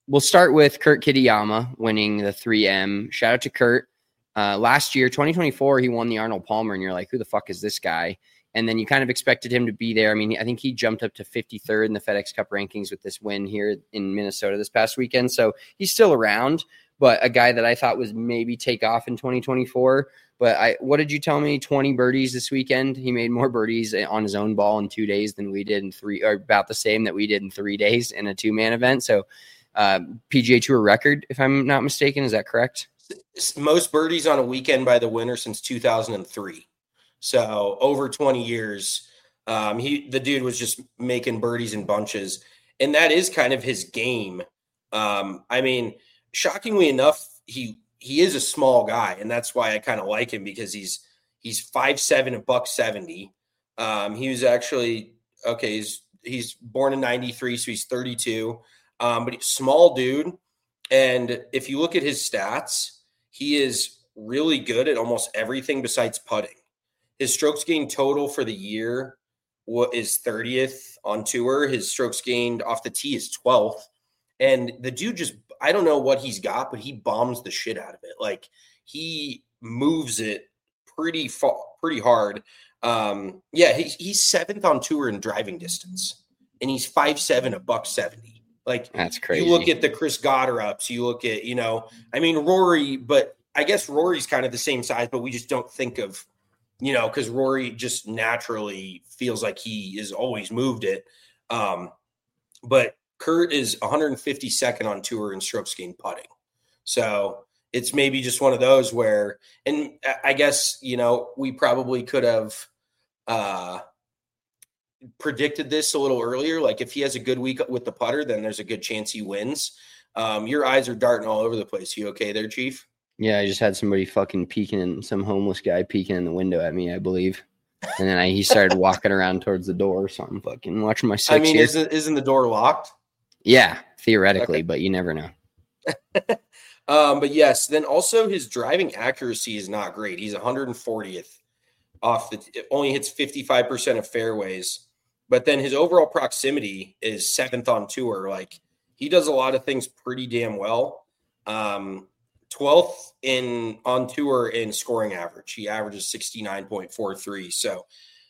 we'll start with Kurt Kitayama winning the three M. Shout out to Kurt. Uh, last year, twenty twenty-four, he won the Arnold Palmer, and you're like, who the fuck is this guy? And then you kind of expected him to be there. I mean, I think he jumped up to fifty-third in the FedEx Cup rankings with this win here in Minnesota this past weekend. So he's still around, but a guy that I thought was maybe take off in twenty twenty-four. But I, what did you tell me? twenty birdies this weekend. He made more birdies on his own ball in two days than we did in three, or about the same that we did in three days in a two-man event. So uh, P G A Tour record, if I'm not mistaken. Is that correct? Most birdies on a weekend by the winner since two thousand three. So over twenty years, um, he the dude was just making birdies in bunches, and that is kind of his game. Um, I mean, shockingly enough, he he is a small guy, and that's why I kind of like him, because he's he's five seven, a buck seventy. Um, he was actually okay. He's he's born in ninety-three, so he's thirty-two. Um, but he's a small dude, and if you look at his stats, he is really good at almost everything besides putting. His strokes gained total for the year is thirtieth on tour. His strokes gained off the tee is twelfth. And the dude just, I don't know what he's got, but he bombs the shit out of it. Like, he moves it pretty far, pretty hard. Um, yeah, he, he's seventh on tour in driving distance, and he's five seven, a buck seventy. Like, that's crazy. You look at the Chris Gotterups, you look at, you know, I mean, Rory, but I guess Rory's kind of the same size, but we just don't think of, you know, because Rory just naturally feels like he is always moved it. Um, but Kurt is one hundred fifty-second on tour in strokes gained putting. So it's maybe just one of those where, and I guess, you know, we probably could have uh, predicted this a little earlier. Like, if he has a good week with the putter, then there's a good chance he wins. Um, your eyes are darting all over the place. You okay there, Chief? Yeah, I just had somebody fucking peeking in, some homeless guy peeking in the window at me, I believe. And then I, he started walking around towards the door. So I'm fucking watching my six I mean, here. isn't, isn't the door locked? Yeah, theoretically, Okay. But you never know. um, but yes, then also his driving accuracy is not great. He's one hundred fortieth off the, it only hits fifty-five percent of fairways, but then his overall proximity is seventh on tour. Like, he does a lot of things pretty damn well. Um, twelfth in on tour in scoring average. He averages sixty-nine point four three. So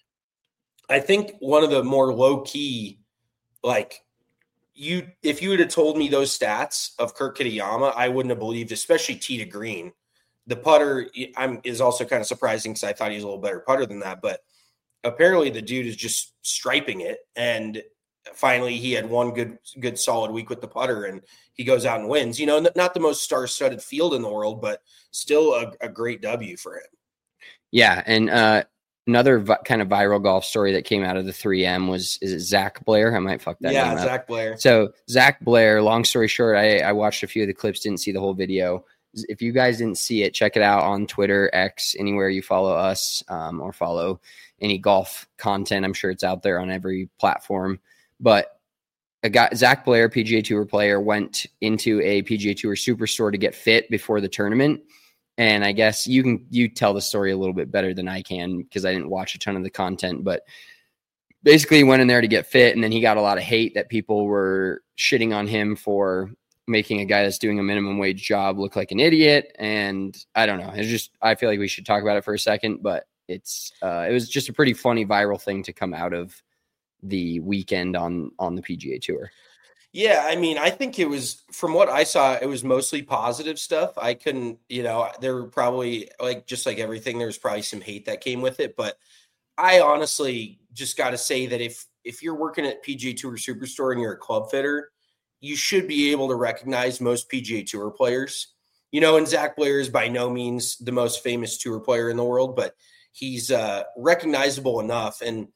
I think one of the more low key, like, you, if you would have told me those stats of Kurt Kitayama, I wouldn't have believed, especially tee to green. The putter I'm, is also kind of surprising, because I thought he was a little better putter than that. But apparently the dude is just striping it. And finally he had one good, good solid week with the putter, and he goes out and wins. You know, not the most star-studded field in the world, but still a, a great W for him. Yeah, and uh, another vi- kind of viral golf story that came out of the three M was, is it Zach Blair? I might fuck that yeah, name up. Zach Blair. So Zach Blair, long story short, I, I watched a few of the clips, didn't see the whole video. If you guys didn't see it, check it out on Twitter, X, anywhere you follow us, um, or follow any golf content. I'm sure it's out there on every platform. But a guy, Zach Blair, P G A Tour player, went into a P G A Tour Superstore to get fit before the tournament. And I guess you can you tell the story a little bit better than I can, because I didn't watch a ton of the content. But basically, he went in there to get fit, and then he got a lot of hate that people were shitting on him for making a guy that's doing a minimum wage job look like an idiot. And I don't know. It's just, I feel like we should talk about it for a second, but it's uh, it was just a pretty funny viral thing to come out of the weekend on on the P G A Tour. Yeah, I mean, I think it was, from what I saw, it was mostly positive stuff. I couldn't, you know, there were probably, like, just like everything, there was probably some hate that came with it. But I honestly just got to say that if if you're working at P G A Tour Superstore and you're a club fitter, you should be able to recognize most P G A Tour players. You know, and Zach Blair is by no means the most famous tour player in the world, but he's uh, recognizable enough. And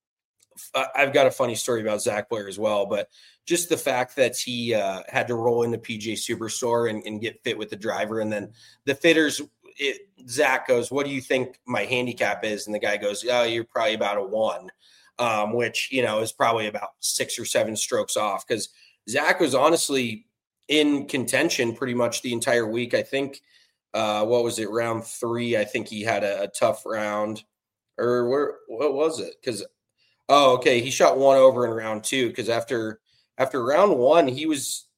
I've got a funny story about Zach Blair as well, but just the fact that he uh, had to roll into P G A Superstore and, and get fit with the driver. And then the fitters, it, Zach goes, "What do you think my handicap is?" And the guy goes, "Oh, you're probably about a one," um, which, you know, is probably about six or seven strokes off. Because Zach was honestly in contention pretty much the entire week. I think, uh, what was it, round three? I think he had a, a tough round. Or where, what was it? Because, oh, okay, he shot one over in round two, because after – After round one, he was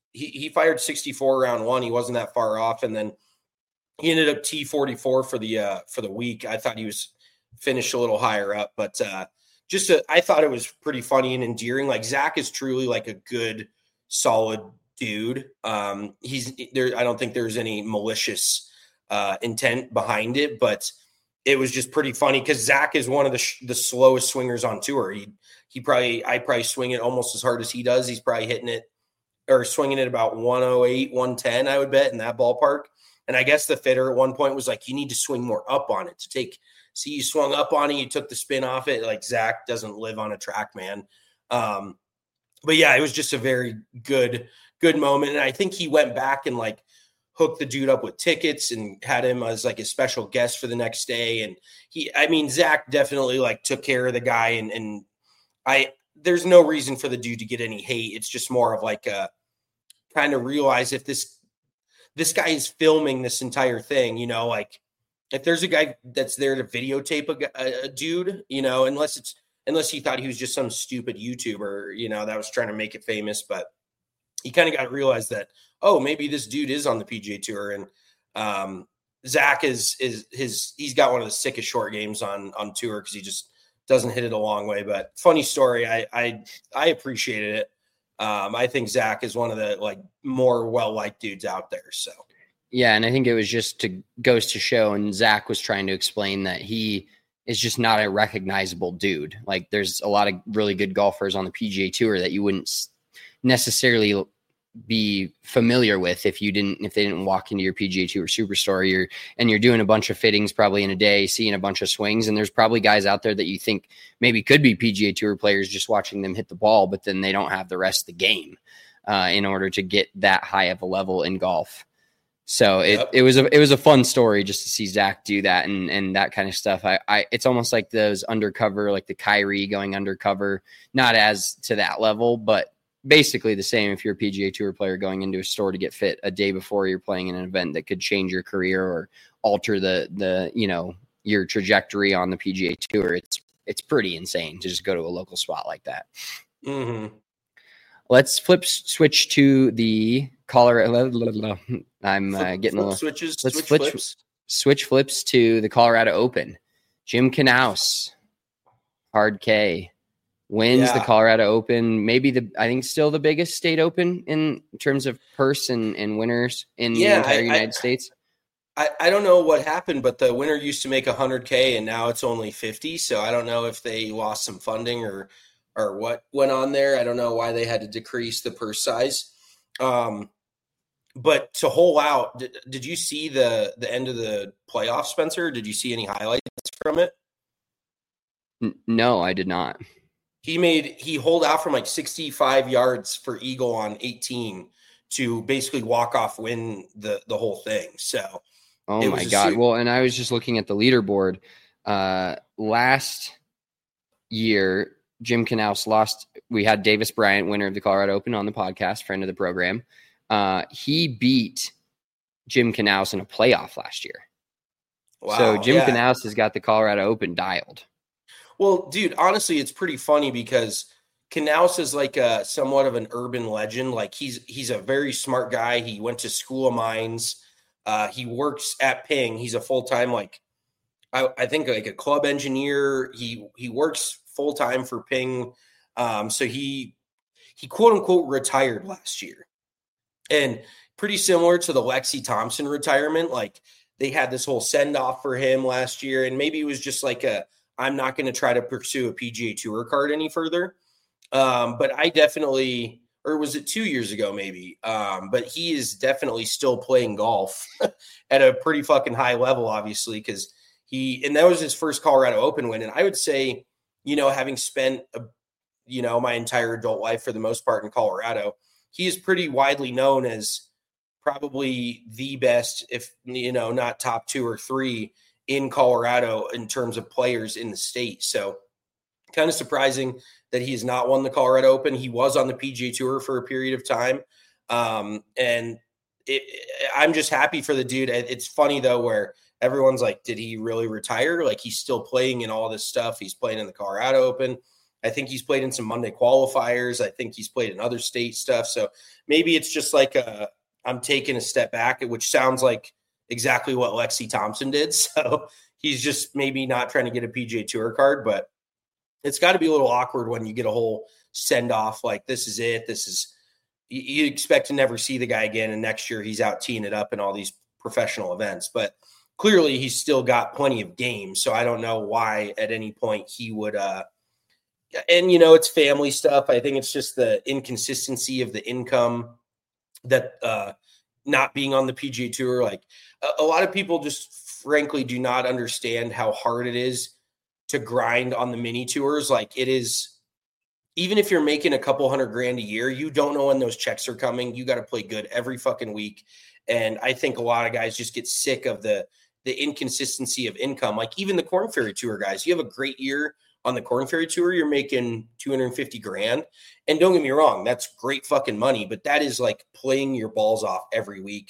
he, he fired sixty-four round one. He wasn't that far off. And then he ended up T forty-four for the, uh, for the week. I thought he was finished a little higher up, but uh, just, a, I thought it was pretty funny and endearing. Like Zach is truly like a good, solid dude. Um, he's there. I don't think there's any malicious uh, intent behind it, but it was just pretty funny because Zach is one of the sh- the slowest swingers on tour. He he probably I probably swing it almost as hard as he does. He's probably hitting it or swinging it about one oh eight, one ten, I would bet, in that ballpark. And I guess the fitter at one point was like, you need to swing more up on it to take. See, you swung up on it, you took the spin off it. Like Zach doesn't live on a track, man. Um, but yeah, it was just a very good, good moment. And I think he went back and like hooked the dude up with tickets and had him as like a special guest for the next day. And he, I mean, Zach definitely like took care of the guy. And, and I, there's no reason for the dude to get any hate. It's just more of like a kind of realize if this, this guy is filming this entire thing, you know, like if there's a guy that's there to videotape a, a, a dude, you know, unless it's, unless he thought he was just some stupid YouTuber, you know, that was trying to make it famous, but he kind of got to realize that, oh, maybe this dude is on the P G A Tour. And um, Zach is, is his, he's got one of the sickest short games on, on tour because he just doesn't hit it a long way. But funny story. I, I, I appreciated it. Um, I think Zach is one of the like more well-liked dudes out there. So, yeah. And I think it was just to goes to show, and Zach was trying to explain that he is just not a recognizable dude. Like there's a lot of really good golfers on the P G A Tour that you wouldn't necessarily be familiar with if you didn't, if they didn't walk into your P G A Tour Superstore. You're, and you're doing a bunch of fittings probably in a day, seeing a bunch of swings. And there's probably guys out there that you think maybe could be P G A Tour players just watching them hit the ball, but then they don't have the rest of the game uh, in order to get that high of a level in golf. So it, yep. it was a, it was a fun story just to see Zach do that and, and that kind of stuff. I, I, it's almost like those undercover, like the Kyrie going undercover, not as to that level, but basically the same. If you're a P G A Tour player going into a store to get fit a day before you're playing in an event that could change your career or alter the, the, you know, your trajectory on the P G A Tour, it's, it's pretty insane to just go to a local spot like that. Mm-hmm. Let's flip switch to the Colorado. I'm uh, flip, getting flip a little switches. Let's switch switch flips. switch flips to the Colorado Open. Jim Knaus, Hard K, wins yeah. the Colorado Open. Maybe the I think still the biggest state open in terms of purse and, and winners in yeah, the entire I, United I, States. I, I don't know what happened, but the winner used to make one hundred K and now it's only fifty. So I don't know if they lost some funding or or what went on there. I don't know why they had to decrease the purse size. Um, but to hole out, did, did you see the the end of the playoff, Spencer? Did you see any highlights from it? N- no, I did not. He made he holed out from like sixty-five yards for eagle on eighteen to basically walk off win the the whole thing. So, oh my god! Super- well, and I was just looking at the leaderboard. Uh, last year, Jim Knaus lost. We had Davis Bryant, winner of the Colorado Open, on the podcast, friend of the program. Uh, he beat Jim Knaus in a playoff last year. Wow, so Jim yeah. Knaus has got the Colorado Open dialed. Well, dude, honestly, it's pretty funny because Knaus is like a somewhat of an urban legend. Like he's he's a very smart guy. He went to School of Mines. Uh, he works at Ping. He's a full time like I, I think like a club engineer. He he works full time for Ping. Um, so he he quote unquote retired last year, and pretty similar to the Lexi Thompson retirement. Like they had this whole send off for him last year, and maybe it was just like a I'm not going to try to pursue a P G A Tour card any further. Um, but I definitely, or was it two years ago maybe? Um, but he is definitely still playing golf at a pretty fucking high level, obviously, because he, and that was his first Colorado Open win. And I would say, you know, having spent, a, you know, my entire adult life for the most part in Colorado, he is pretty widely known as probably the best, if, you know, not top two or three in Colorado in terms of players in the state. So kind of surprising that he has not won the Colorado Open. He was on the P G A Tour for a period of time. Um, and it, I'm just happy for the dude. It's funny though, where everyone's like, did he really retire? Like he's still playing in all this stuff. He's playing in the Colorado Open. I think he's played in some Monday qualifiers. I think he's played in other state stuff. So maybe it's just like a, I'm taking a step back, which sounds like exactly what Lexi Thompson did. So he's just maybe not trying to get a P G A Tour card, but it's got to be a little awkward when you get a whole send off. Like, this is it. This is, you expect to never see the guy again. And next year he's out teeing it up in all these professional events, but clearly he's still got plenty of games. So I don't know why at any point he would, uh, and you know, it's family stuff. I think it's just the inconsistency of the income that, uh, not being on the P G A Tour. Like a, a lot of people just frankly do not understand how hard it is to grind on the mini tours. Like it is, even if you're making a couple hundred grand a year, you don't know when those checks are coming. You got to play good every fucking week. And I think a lot of guys just get sick of the, the inconsistency of income. Like even the Korn Ferry Tour guys, you have a great year on the Korn Ferry Tour, you're making two hundred fifty grand. And don't get me wrong, that's great fucking money, but that is like playing your balls off every week,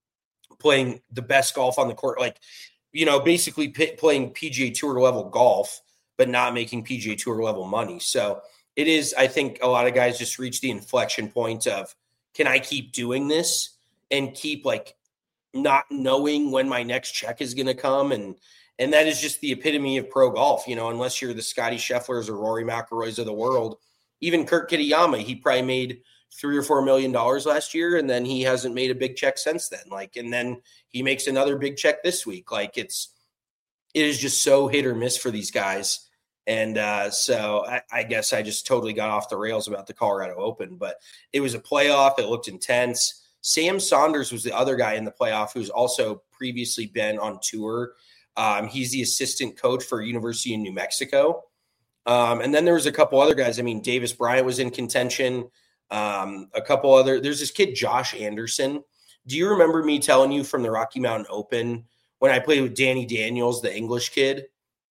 playing the best golf on the court. Like, you know, basically p- playing P G A Tour level golf, but not making P G A Tour level money. So it is, I think a lot of guys just reach the inflection point of, can I keep doing this and keep like not knowing when my next check is going to come? And, and that is just the epitome of pro golf, you know, unless you're the Scotty Schefflers or Rory McIlroys of the world. Even Kurt Kitayama, he probably made three or four million dollars last year, and then he hasn't made a big check since then. Like, and then he makes another big check this week. Like, it's it is just so hit or miss for these guys. And uh, so I, I guess I just totally got off the rails about the Colorado Open, but it was a playoff. It looked intense. Sam Saunders was the other guy in the playoff who's also previously been on tour. Um, he's the assistant coach for University of New Mexico. Um, and then there was a couple other guys. I mean, Davis Bryant was in contention. Um, a couple other, there's this kid, Josh Anderson. Do you remember me telling you from the Rocky Mountain Open when I played with Danny Daniels, the English kid?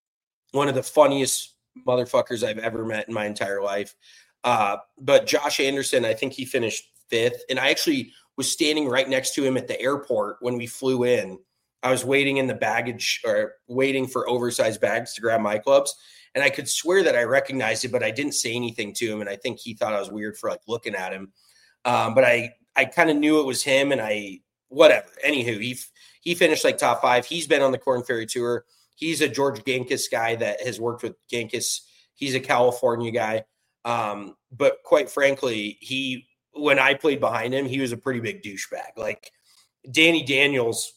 One of the funniest motherfuckers I've ever met in my entire life. Uh, but Josh Anderson, I think he finished fifth. And I actually was standing right next to him at the airport when we flew in. I was waiting in the baggage or waiting for oversized bags to grab my clubs. And I could swear that I recognized it, but I didn't say anything to him. And I think he thought I was weird for like looking at him. Um, but I, I kind of knew it was him, and I, whatever. Anywho, he, he finished like top five. He's been on the Korn Ferry Tour. He's a George Gankis guy that has worked with Gankis. He's a California guy. Um, but quite frankly, he, when I played behind him, he was a pretty big douchebag. Like Danny Daniels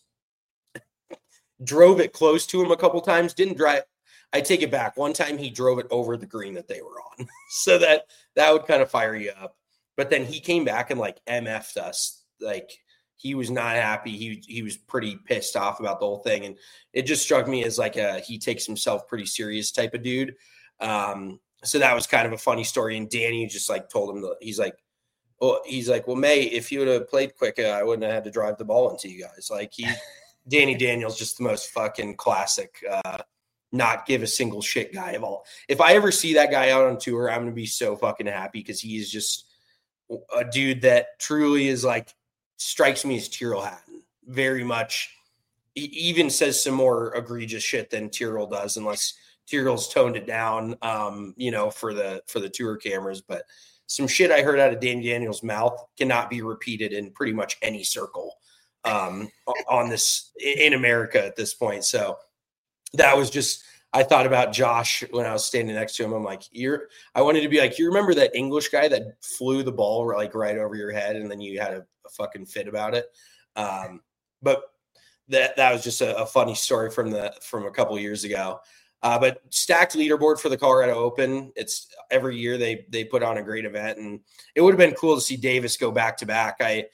drove it close to him a couple times, didn't drive. I take it back. One time he drove it over the green that they were on. So that, that would kind of fire you up. But then he came back and like M F'd us. Like he was not happy. He, he was pretty pissed off about the whole thing. And it just struck me as like a, he takes himself pretty serious type of dude. Um, so that was kind of a funny story. And Danny just like told him, that he's like, well, he's like, well, May, if you would have played quicker, I wouldn't have had to drive the ball into you guys. Like he, Danny Daniels, just the most fucking classic, uh, not give a single shit guy of all. If I ever see that guy out on tour, I'm going to be so fucking happy, because he is just a dude that truly is like, strikes me as Tyrrell Hatton very much. He even says some more egregious shit than Tyrrell does, unless Tyrrell's toned it down, um, you know, for the, for the tour cameras. But some shit I heard out of Danny Daniels' mouth cannot be repeated in pretty much any circle um, on this in America at this point. So that was just, I thought about Josh when I was standing next to him. I'm like, you're, I wanted to be like, you remember that English guy that flew the ball like right over your head, and then you had a, a fucking fit about it. Um, but that, that was just a, a funny story from the, from a couple of years ago. Uh, but stacked leaderboard for the Colorado Open. It's every year they, they put on a great event, and it would have been cool to see Davis go back to back. I,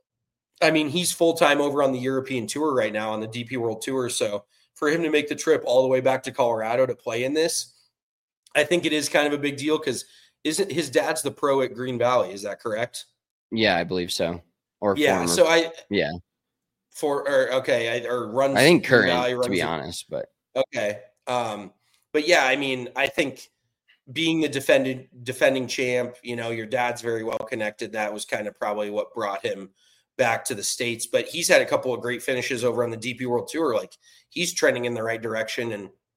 I mean, he's full-time over on the European Tour right now on the D P World Tour. So for him to make the trip all the way back to Colorado to play in this, I think it is kind of a big deal, because isn't his dad's the pro at Green Valley? Is that correct? Yeah, I believe so. Or yeah. former. So I, yeah, for, or okay. I, or runs, I think Green current, Valley, runs to be it. honest, but okay. Um, but yeah, I mean, I think being the defended defending champ, you know, your dad's very well connected. That was kind of probably what brought him back to the States, but he's had a couple of great finishes over on the D P World Tour. Like he's trending in the right direction. And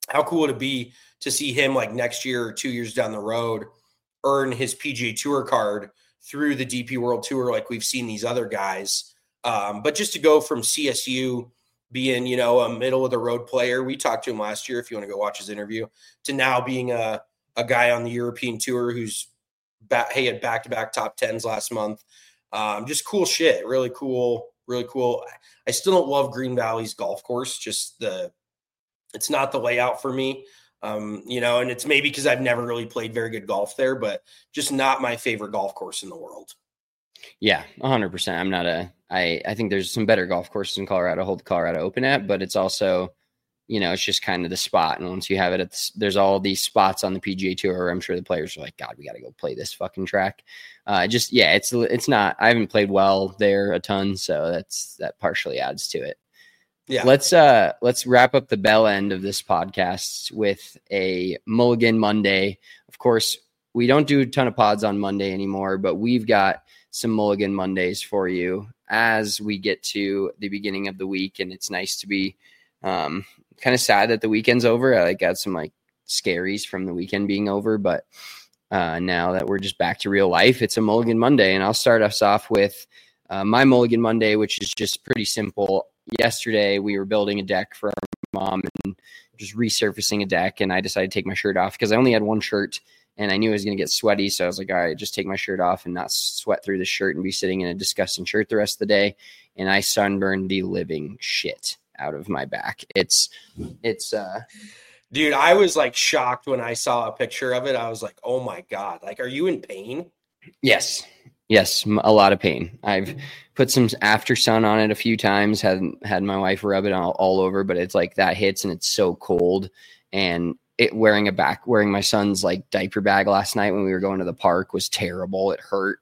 how cool would it be to see him like next year or two years down the road earn his P G A Tour card through the D P World Tour like we've seen these other guys. Um, but just to go from C S U being, you know, a middle of the road player, we talked to him last year, if you want to go watch his interview, to now being a, a guy on the European Tour who's back, he had back-to-back top tens last month. Um, just cool shit. Really cool. Really cool. I still don't love Green Valley's golf course. Just the, it's not the layout for me. Um, you know, and it's maybe because I've never really played very good golf there, but just not my favorite golf course in the world. Yeah, one hundred percent. I'm not a, I, I think there's some better golf courses in Colorado, hold the Colorado Open at, but it's also, you know, it's just kind of the spot. And once you have it, at the, there's all these spots on the P G A Tour where I'm sure the players are like, God, we got to go play this fucking track. Uh, just, yeah, it's, it's not, I haven't played well there a ton. So that's, that partially adds to it. Yeah. Let's uh let's wrap up the bell end of this podcast with a Mulligan Monday. Of course, we don't do a ton of pods on Monday anymore, but we've got some Mulligan Mondays for you as we get to the beginning of the week. And it's nice to be um kind of sad that the weekend's over. I like got some like scaries from the weekend being over, but uh now that we're just back to real life, it's a Mulligan Monday. And I'll start us off with uh, my Mulligan Monday, which is just pretty simple. Yesterday, we were building a deck for our mom and just resurfacing a deck. And I decided to take my shirt off because I only had one shirt and I knew I was going to get sweaty. So I was like, all right, just take my shirt off and not sweat through the shirt and be sitting in a disgusting shirt the rest of the day. And I sunburned the living shit out of my back. It's, it's, uh, dude, I was like shocked when I saw a picture of it. I was like, oh my God, like, are you in pain? Yes. Yes, a lot of pain. I've put some after sun on it a few times, had had my wife rub it all, all over, but it's like that hits and it's so cold. And it wearing a back, wearing my son's like diaper bag last night when we were going to the park was terrible. It hurt.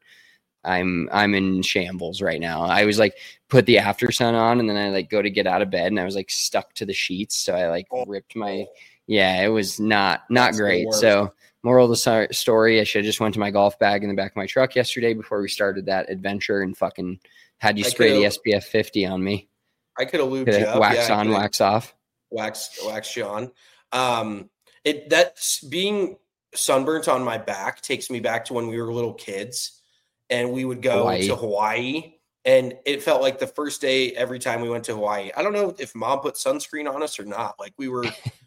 I'm I'm in shambles right now. I was like put the after sun on and then I like go to get out of bed and I was like stuck to the sheets. So I like ripped my, yeah, it was not, not That's great. So moral of the story, I should have just went to my golf bag in the back of my truck yesterday before we started that adventure and fucking had you spray the S P F fifty on me. I could have lubed you up. Wax yeah, on, wax off. Wax, wax you on. Um, it, that's being sunburnt on my back takes me back to when we were little kids and we would go Hawaii. to Hawaii. And it felt like the first day every time we went to Hawaii. I don't know if mom put sunscreen on us or not. Like we were.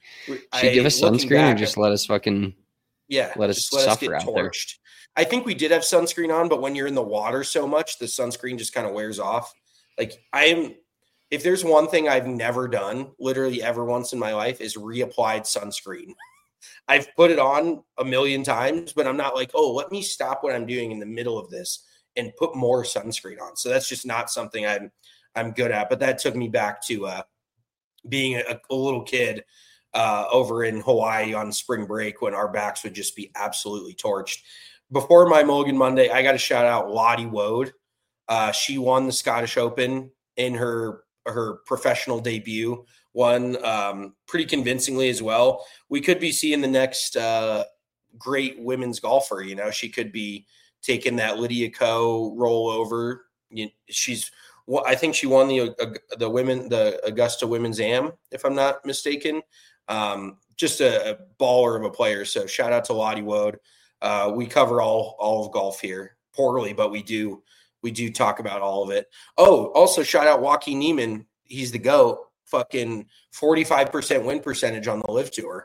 She give us sunscreen or just let us fucking. Yeah, let us let suffer us get out torched. There. I think we did have sunscreen on, but when you're in the water so much, the sunscreen just kind of wears off. Like I am, if there's one thing I've never done, literally ever once in my life, is reapplied sunscreen. I've put it on a million times, but I'm not like, oh, let me stop what I'm doing in the middle of this and put more sunscreen on. So that's just not something I'm I'm good at. But that took me back to uh, being a, a little kid. Uh, over in Hawaii on spring break when our backs would just be absolutely torched. Before my Mulligan Monday, I got to shout out Lottie Wode. Uh, she won the Scottish Open in her her professional debut, won um, pretty convincingly as well. We could be seeing the next uh, great women's golfer. You know, she could be taking that Lydia Ko rollover. You, she's, well, I think she won the uh, the women the Augusta Women's Am, if I'm not mistaken. Um, just a, a baller of a player. So shout out to Lottie Wode. Uh, we cover all, all of golf here poorly, but we do, we do talk about all of it. Oh, also shout out Joaquin Niemann. He's the GOAT. Fucking forty-five percent win percentage on the Live Tour.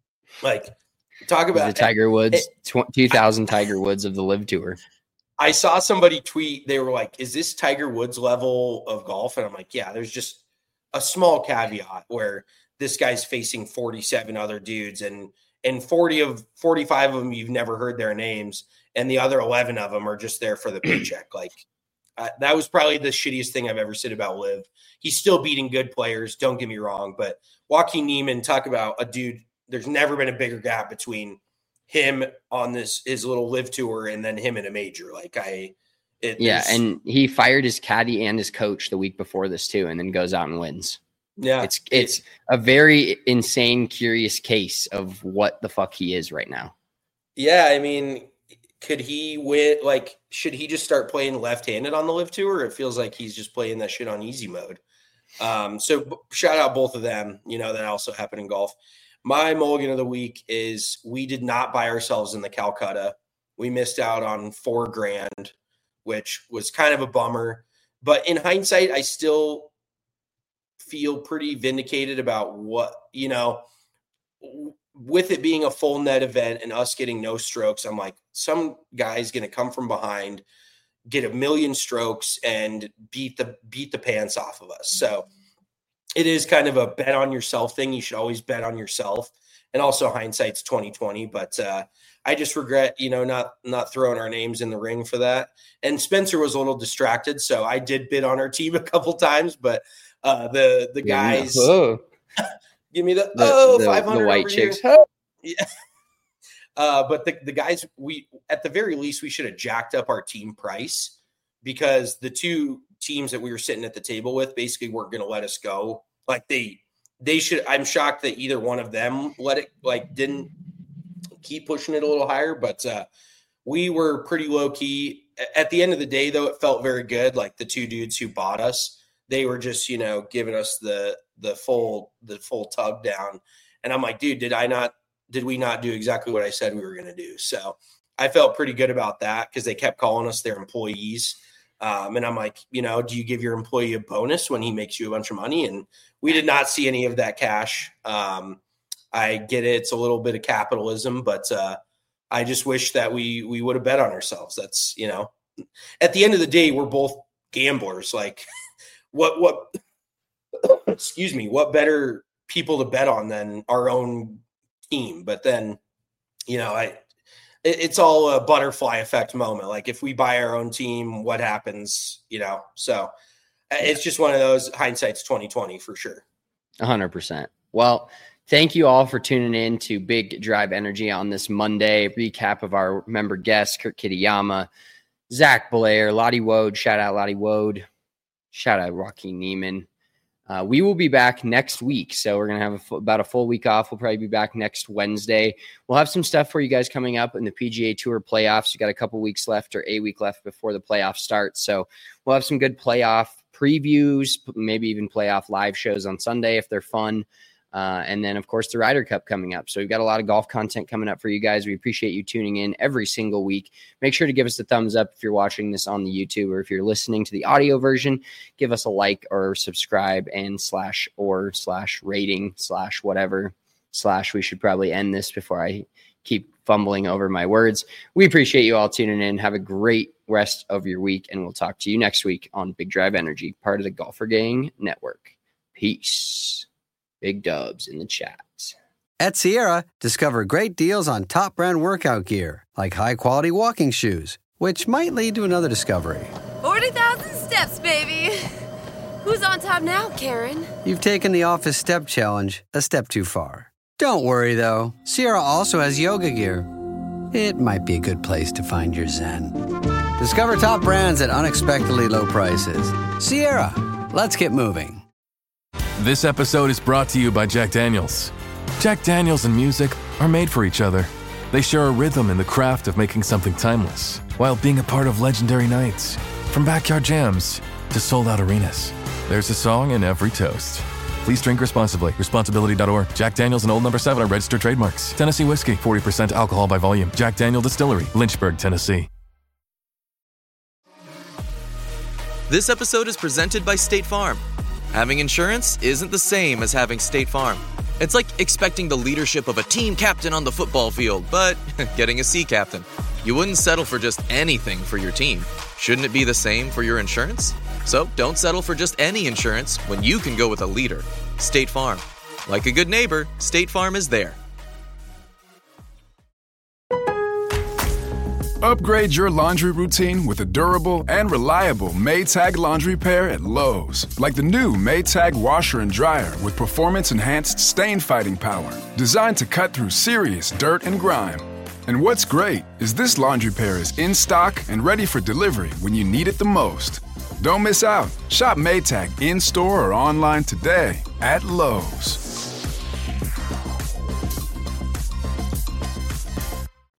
Like talk about the Tiger Woods, it, two thousand Tiger Woods of the Live Tour. I saw somebody tweet. They were like, is this Tiger Woods level of golf? And I'm like, yeah, there's just a small caveat where this guy's facing forty-seven other dudes and, and forty of forty-five of them, you've never heard their names. And the other eleven of them are just there for the paycheck. Like uh, that was probably the shittiest thing I've ever said about Liv. He's still beating good players. Don't get me wrong, but Joaquin Niemann, talk about a dude. There's never been a bigger gap between him on this, his little Live Tour and then him in a major. Like I, it, yeah. And he fired his caddy and his coach the week before this too, and then goes out and wins. Yeah, it's it's a very insane, curious case of what the fuck he is right now. Yeah, I mean, could he win? Like, should he just start playing left-handed on the Live Tour? Or it feels like he's just playing that shit on easy mode. Um, so shout out both of them. You know, that also happened in golf. my mulligan of the week is we did not buy ourselves in the Calcutta. We missed out on four grand, which was kind of a bummer. But in hindsight, I still feel pretty vindicated about what, you know, with it being a full net event and us getting no strokes. I'm like, some guy's going to come from behind, get a million strokes and beat the beat the pants off of us. So it is kind of a bet on yourself thing. You should always bet on yourself. And also hindsight's twenty twenty, but uh, I just regret, you know, not, not throwing our names in the ring for that. And Spencer was a little distracted. So I did bid on our team a couple times, but uh, the, the guys, oh. give me the, the oh, the, five hundred the white chicks. Yeah. Uh, but the, the guys, we, at the very least, we should have jacked up our team price, because the two teams that we were sitting at the table with basically weren't going to let us go. Like they, they should, I'm shocked that either one of them let it, like didn't keep pushing it a little higher, but uh, we were pretty low key. At the end of the day, though, it felt very good. Like the two dudes who bought us, they were just, you know, giving us the, the full, the full tug down. And I'm like, dude, did I not, did we not do exactly what I said we were going to do? So I felt pretty good about that, because they kept calling us their employees. Um, and I'm like, you know, do you give your employee a bonus when he makes you a bunch of money? And we did not see any of that cash. Um, I get it. It's a little bit of capitalism, but uh, I just wish that we, we would have bet on ourselves. That's, you know, at the end of the day, we're both gamblers. Like what, what, excuse me, what better people to bet on than our own team? But then, you know, I, it, it's all a butterfly effect moment. Like if we buy our own team, what happens, you know? So it's just one of those, hindsight's twenty twenty for sure. A hundred percent. Well, thank you all for tuning in to Big Drive Energy on this Monday. Recap of our member guests: Kurt Kitayama, Zach Blair, Lottie Wode. Shout out Lottie Wode. Shout out Joaquin Neiman. Uh, we will be back next week. So we're going to have a f- about a full week off. We'll probably be back next Wednesday. We'll have some stuff for you guys coming up in the P G A Tour playoffs. We got a couple weeks left, or a week left before the playoffs start. So we'll have some good playoff previews, maybe even playoff live shows on Sunday if they're fun. Uh, and then, of course, the Ryder Cup coming up. So we've got a lot of golf content coming up for you guys. We appreciate you tuning in every single week. Make sure to give us a thumbs up if you're watching this on the YouTube, or if you're listening to the audio version, give us a like or subscribe and slash or slash rating slash whatever slash. We should probably end this before I keep fumbling over my words. We appreciate you all tuning in. Have a great rest of your week, and we'll talk to you next week on Big Drive Energy, part of the Golfer Gang Network. Peace. Big dubs in the chat. At Sierra, discover great deals on top brand workout gear, like high-quality walking shoes, which might lead to another discovery. forty thousand steps, baby. Who's on top now, Karen? You've taken the Office Step Challenge a step too far. Don't worry, though. Sierra also has yoga gear. It might be a good place to find your zen. Discover top brands at unexpectedly low prices. Sierra, let's get moving. This episode is brought to you by Jack Daniels. Jack Daniels and music are made for each other. They share a rhythm in the craft of making something timeless, while being a part of legendary nights. From backyard jams to sold-out arenas, there's a song in every toast. Please drink responsibly. Responsibility dot org. Jack Daniels and Old Number seven are registered trademarks. Tennessee whiskey, forty percent alcohol by volume. Jack Daniel Distillery, Lynchburg, Tennessee. This episode is presented by State Farm. Having insurance isn't the same as having State Farm. It's like expecting the leadership of a team captain on the football field, but getting a sea captain. You wouldn't settle for just anything for your team. Shouldn't it be the same for your insurance? So don't settle for just any insurance when you can go with a leader. State Farm. Like a good neighbor, State Farm is there. Upgrade your laundry routine with a durable and reliable Maytag laundry pair at Lowe's. Like the new Maytag washer and dryer with performance-enhanced stain-fighting power. Designed to cut through serious dirt and grime. And what's great is this laundry pair is in stock and ready for delivery when you need it the most. Don't miss out. Shop Maytag in-store or online today at Lowe's.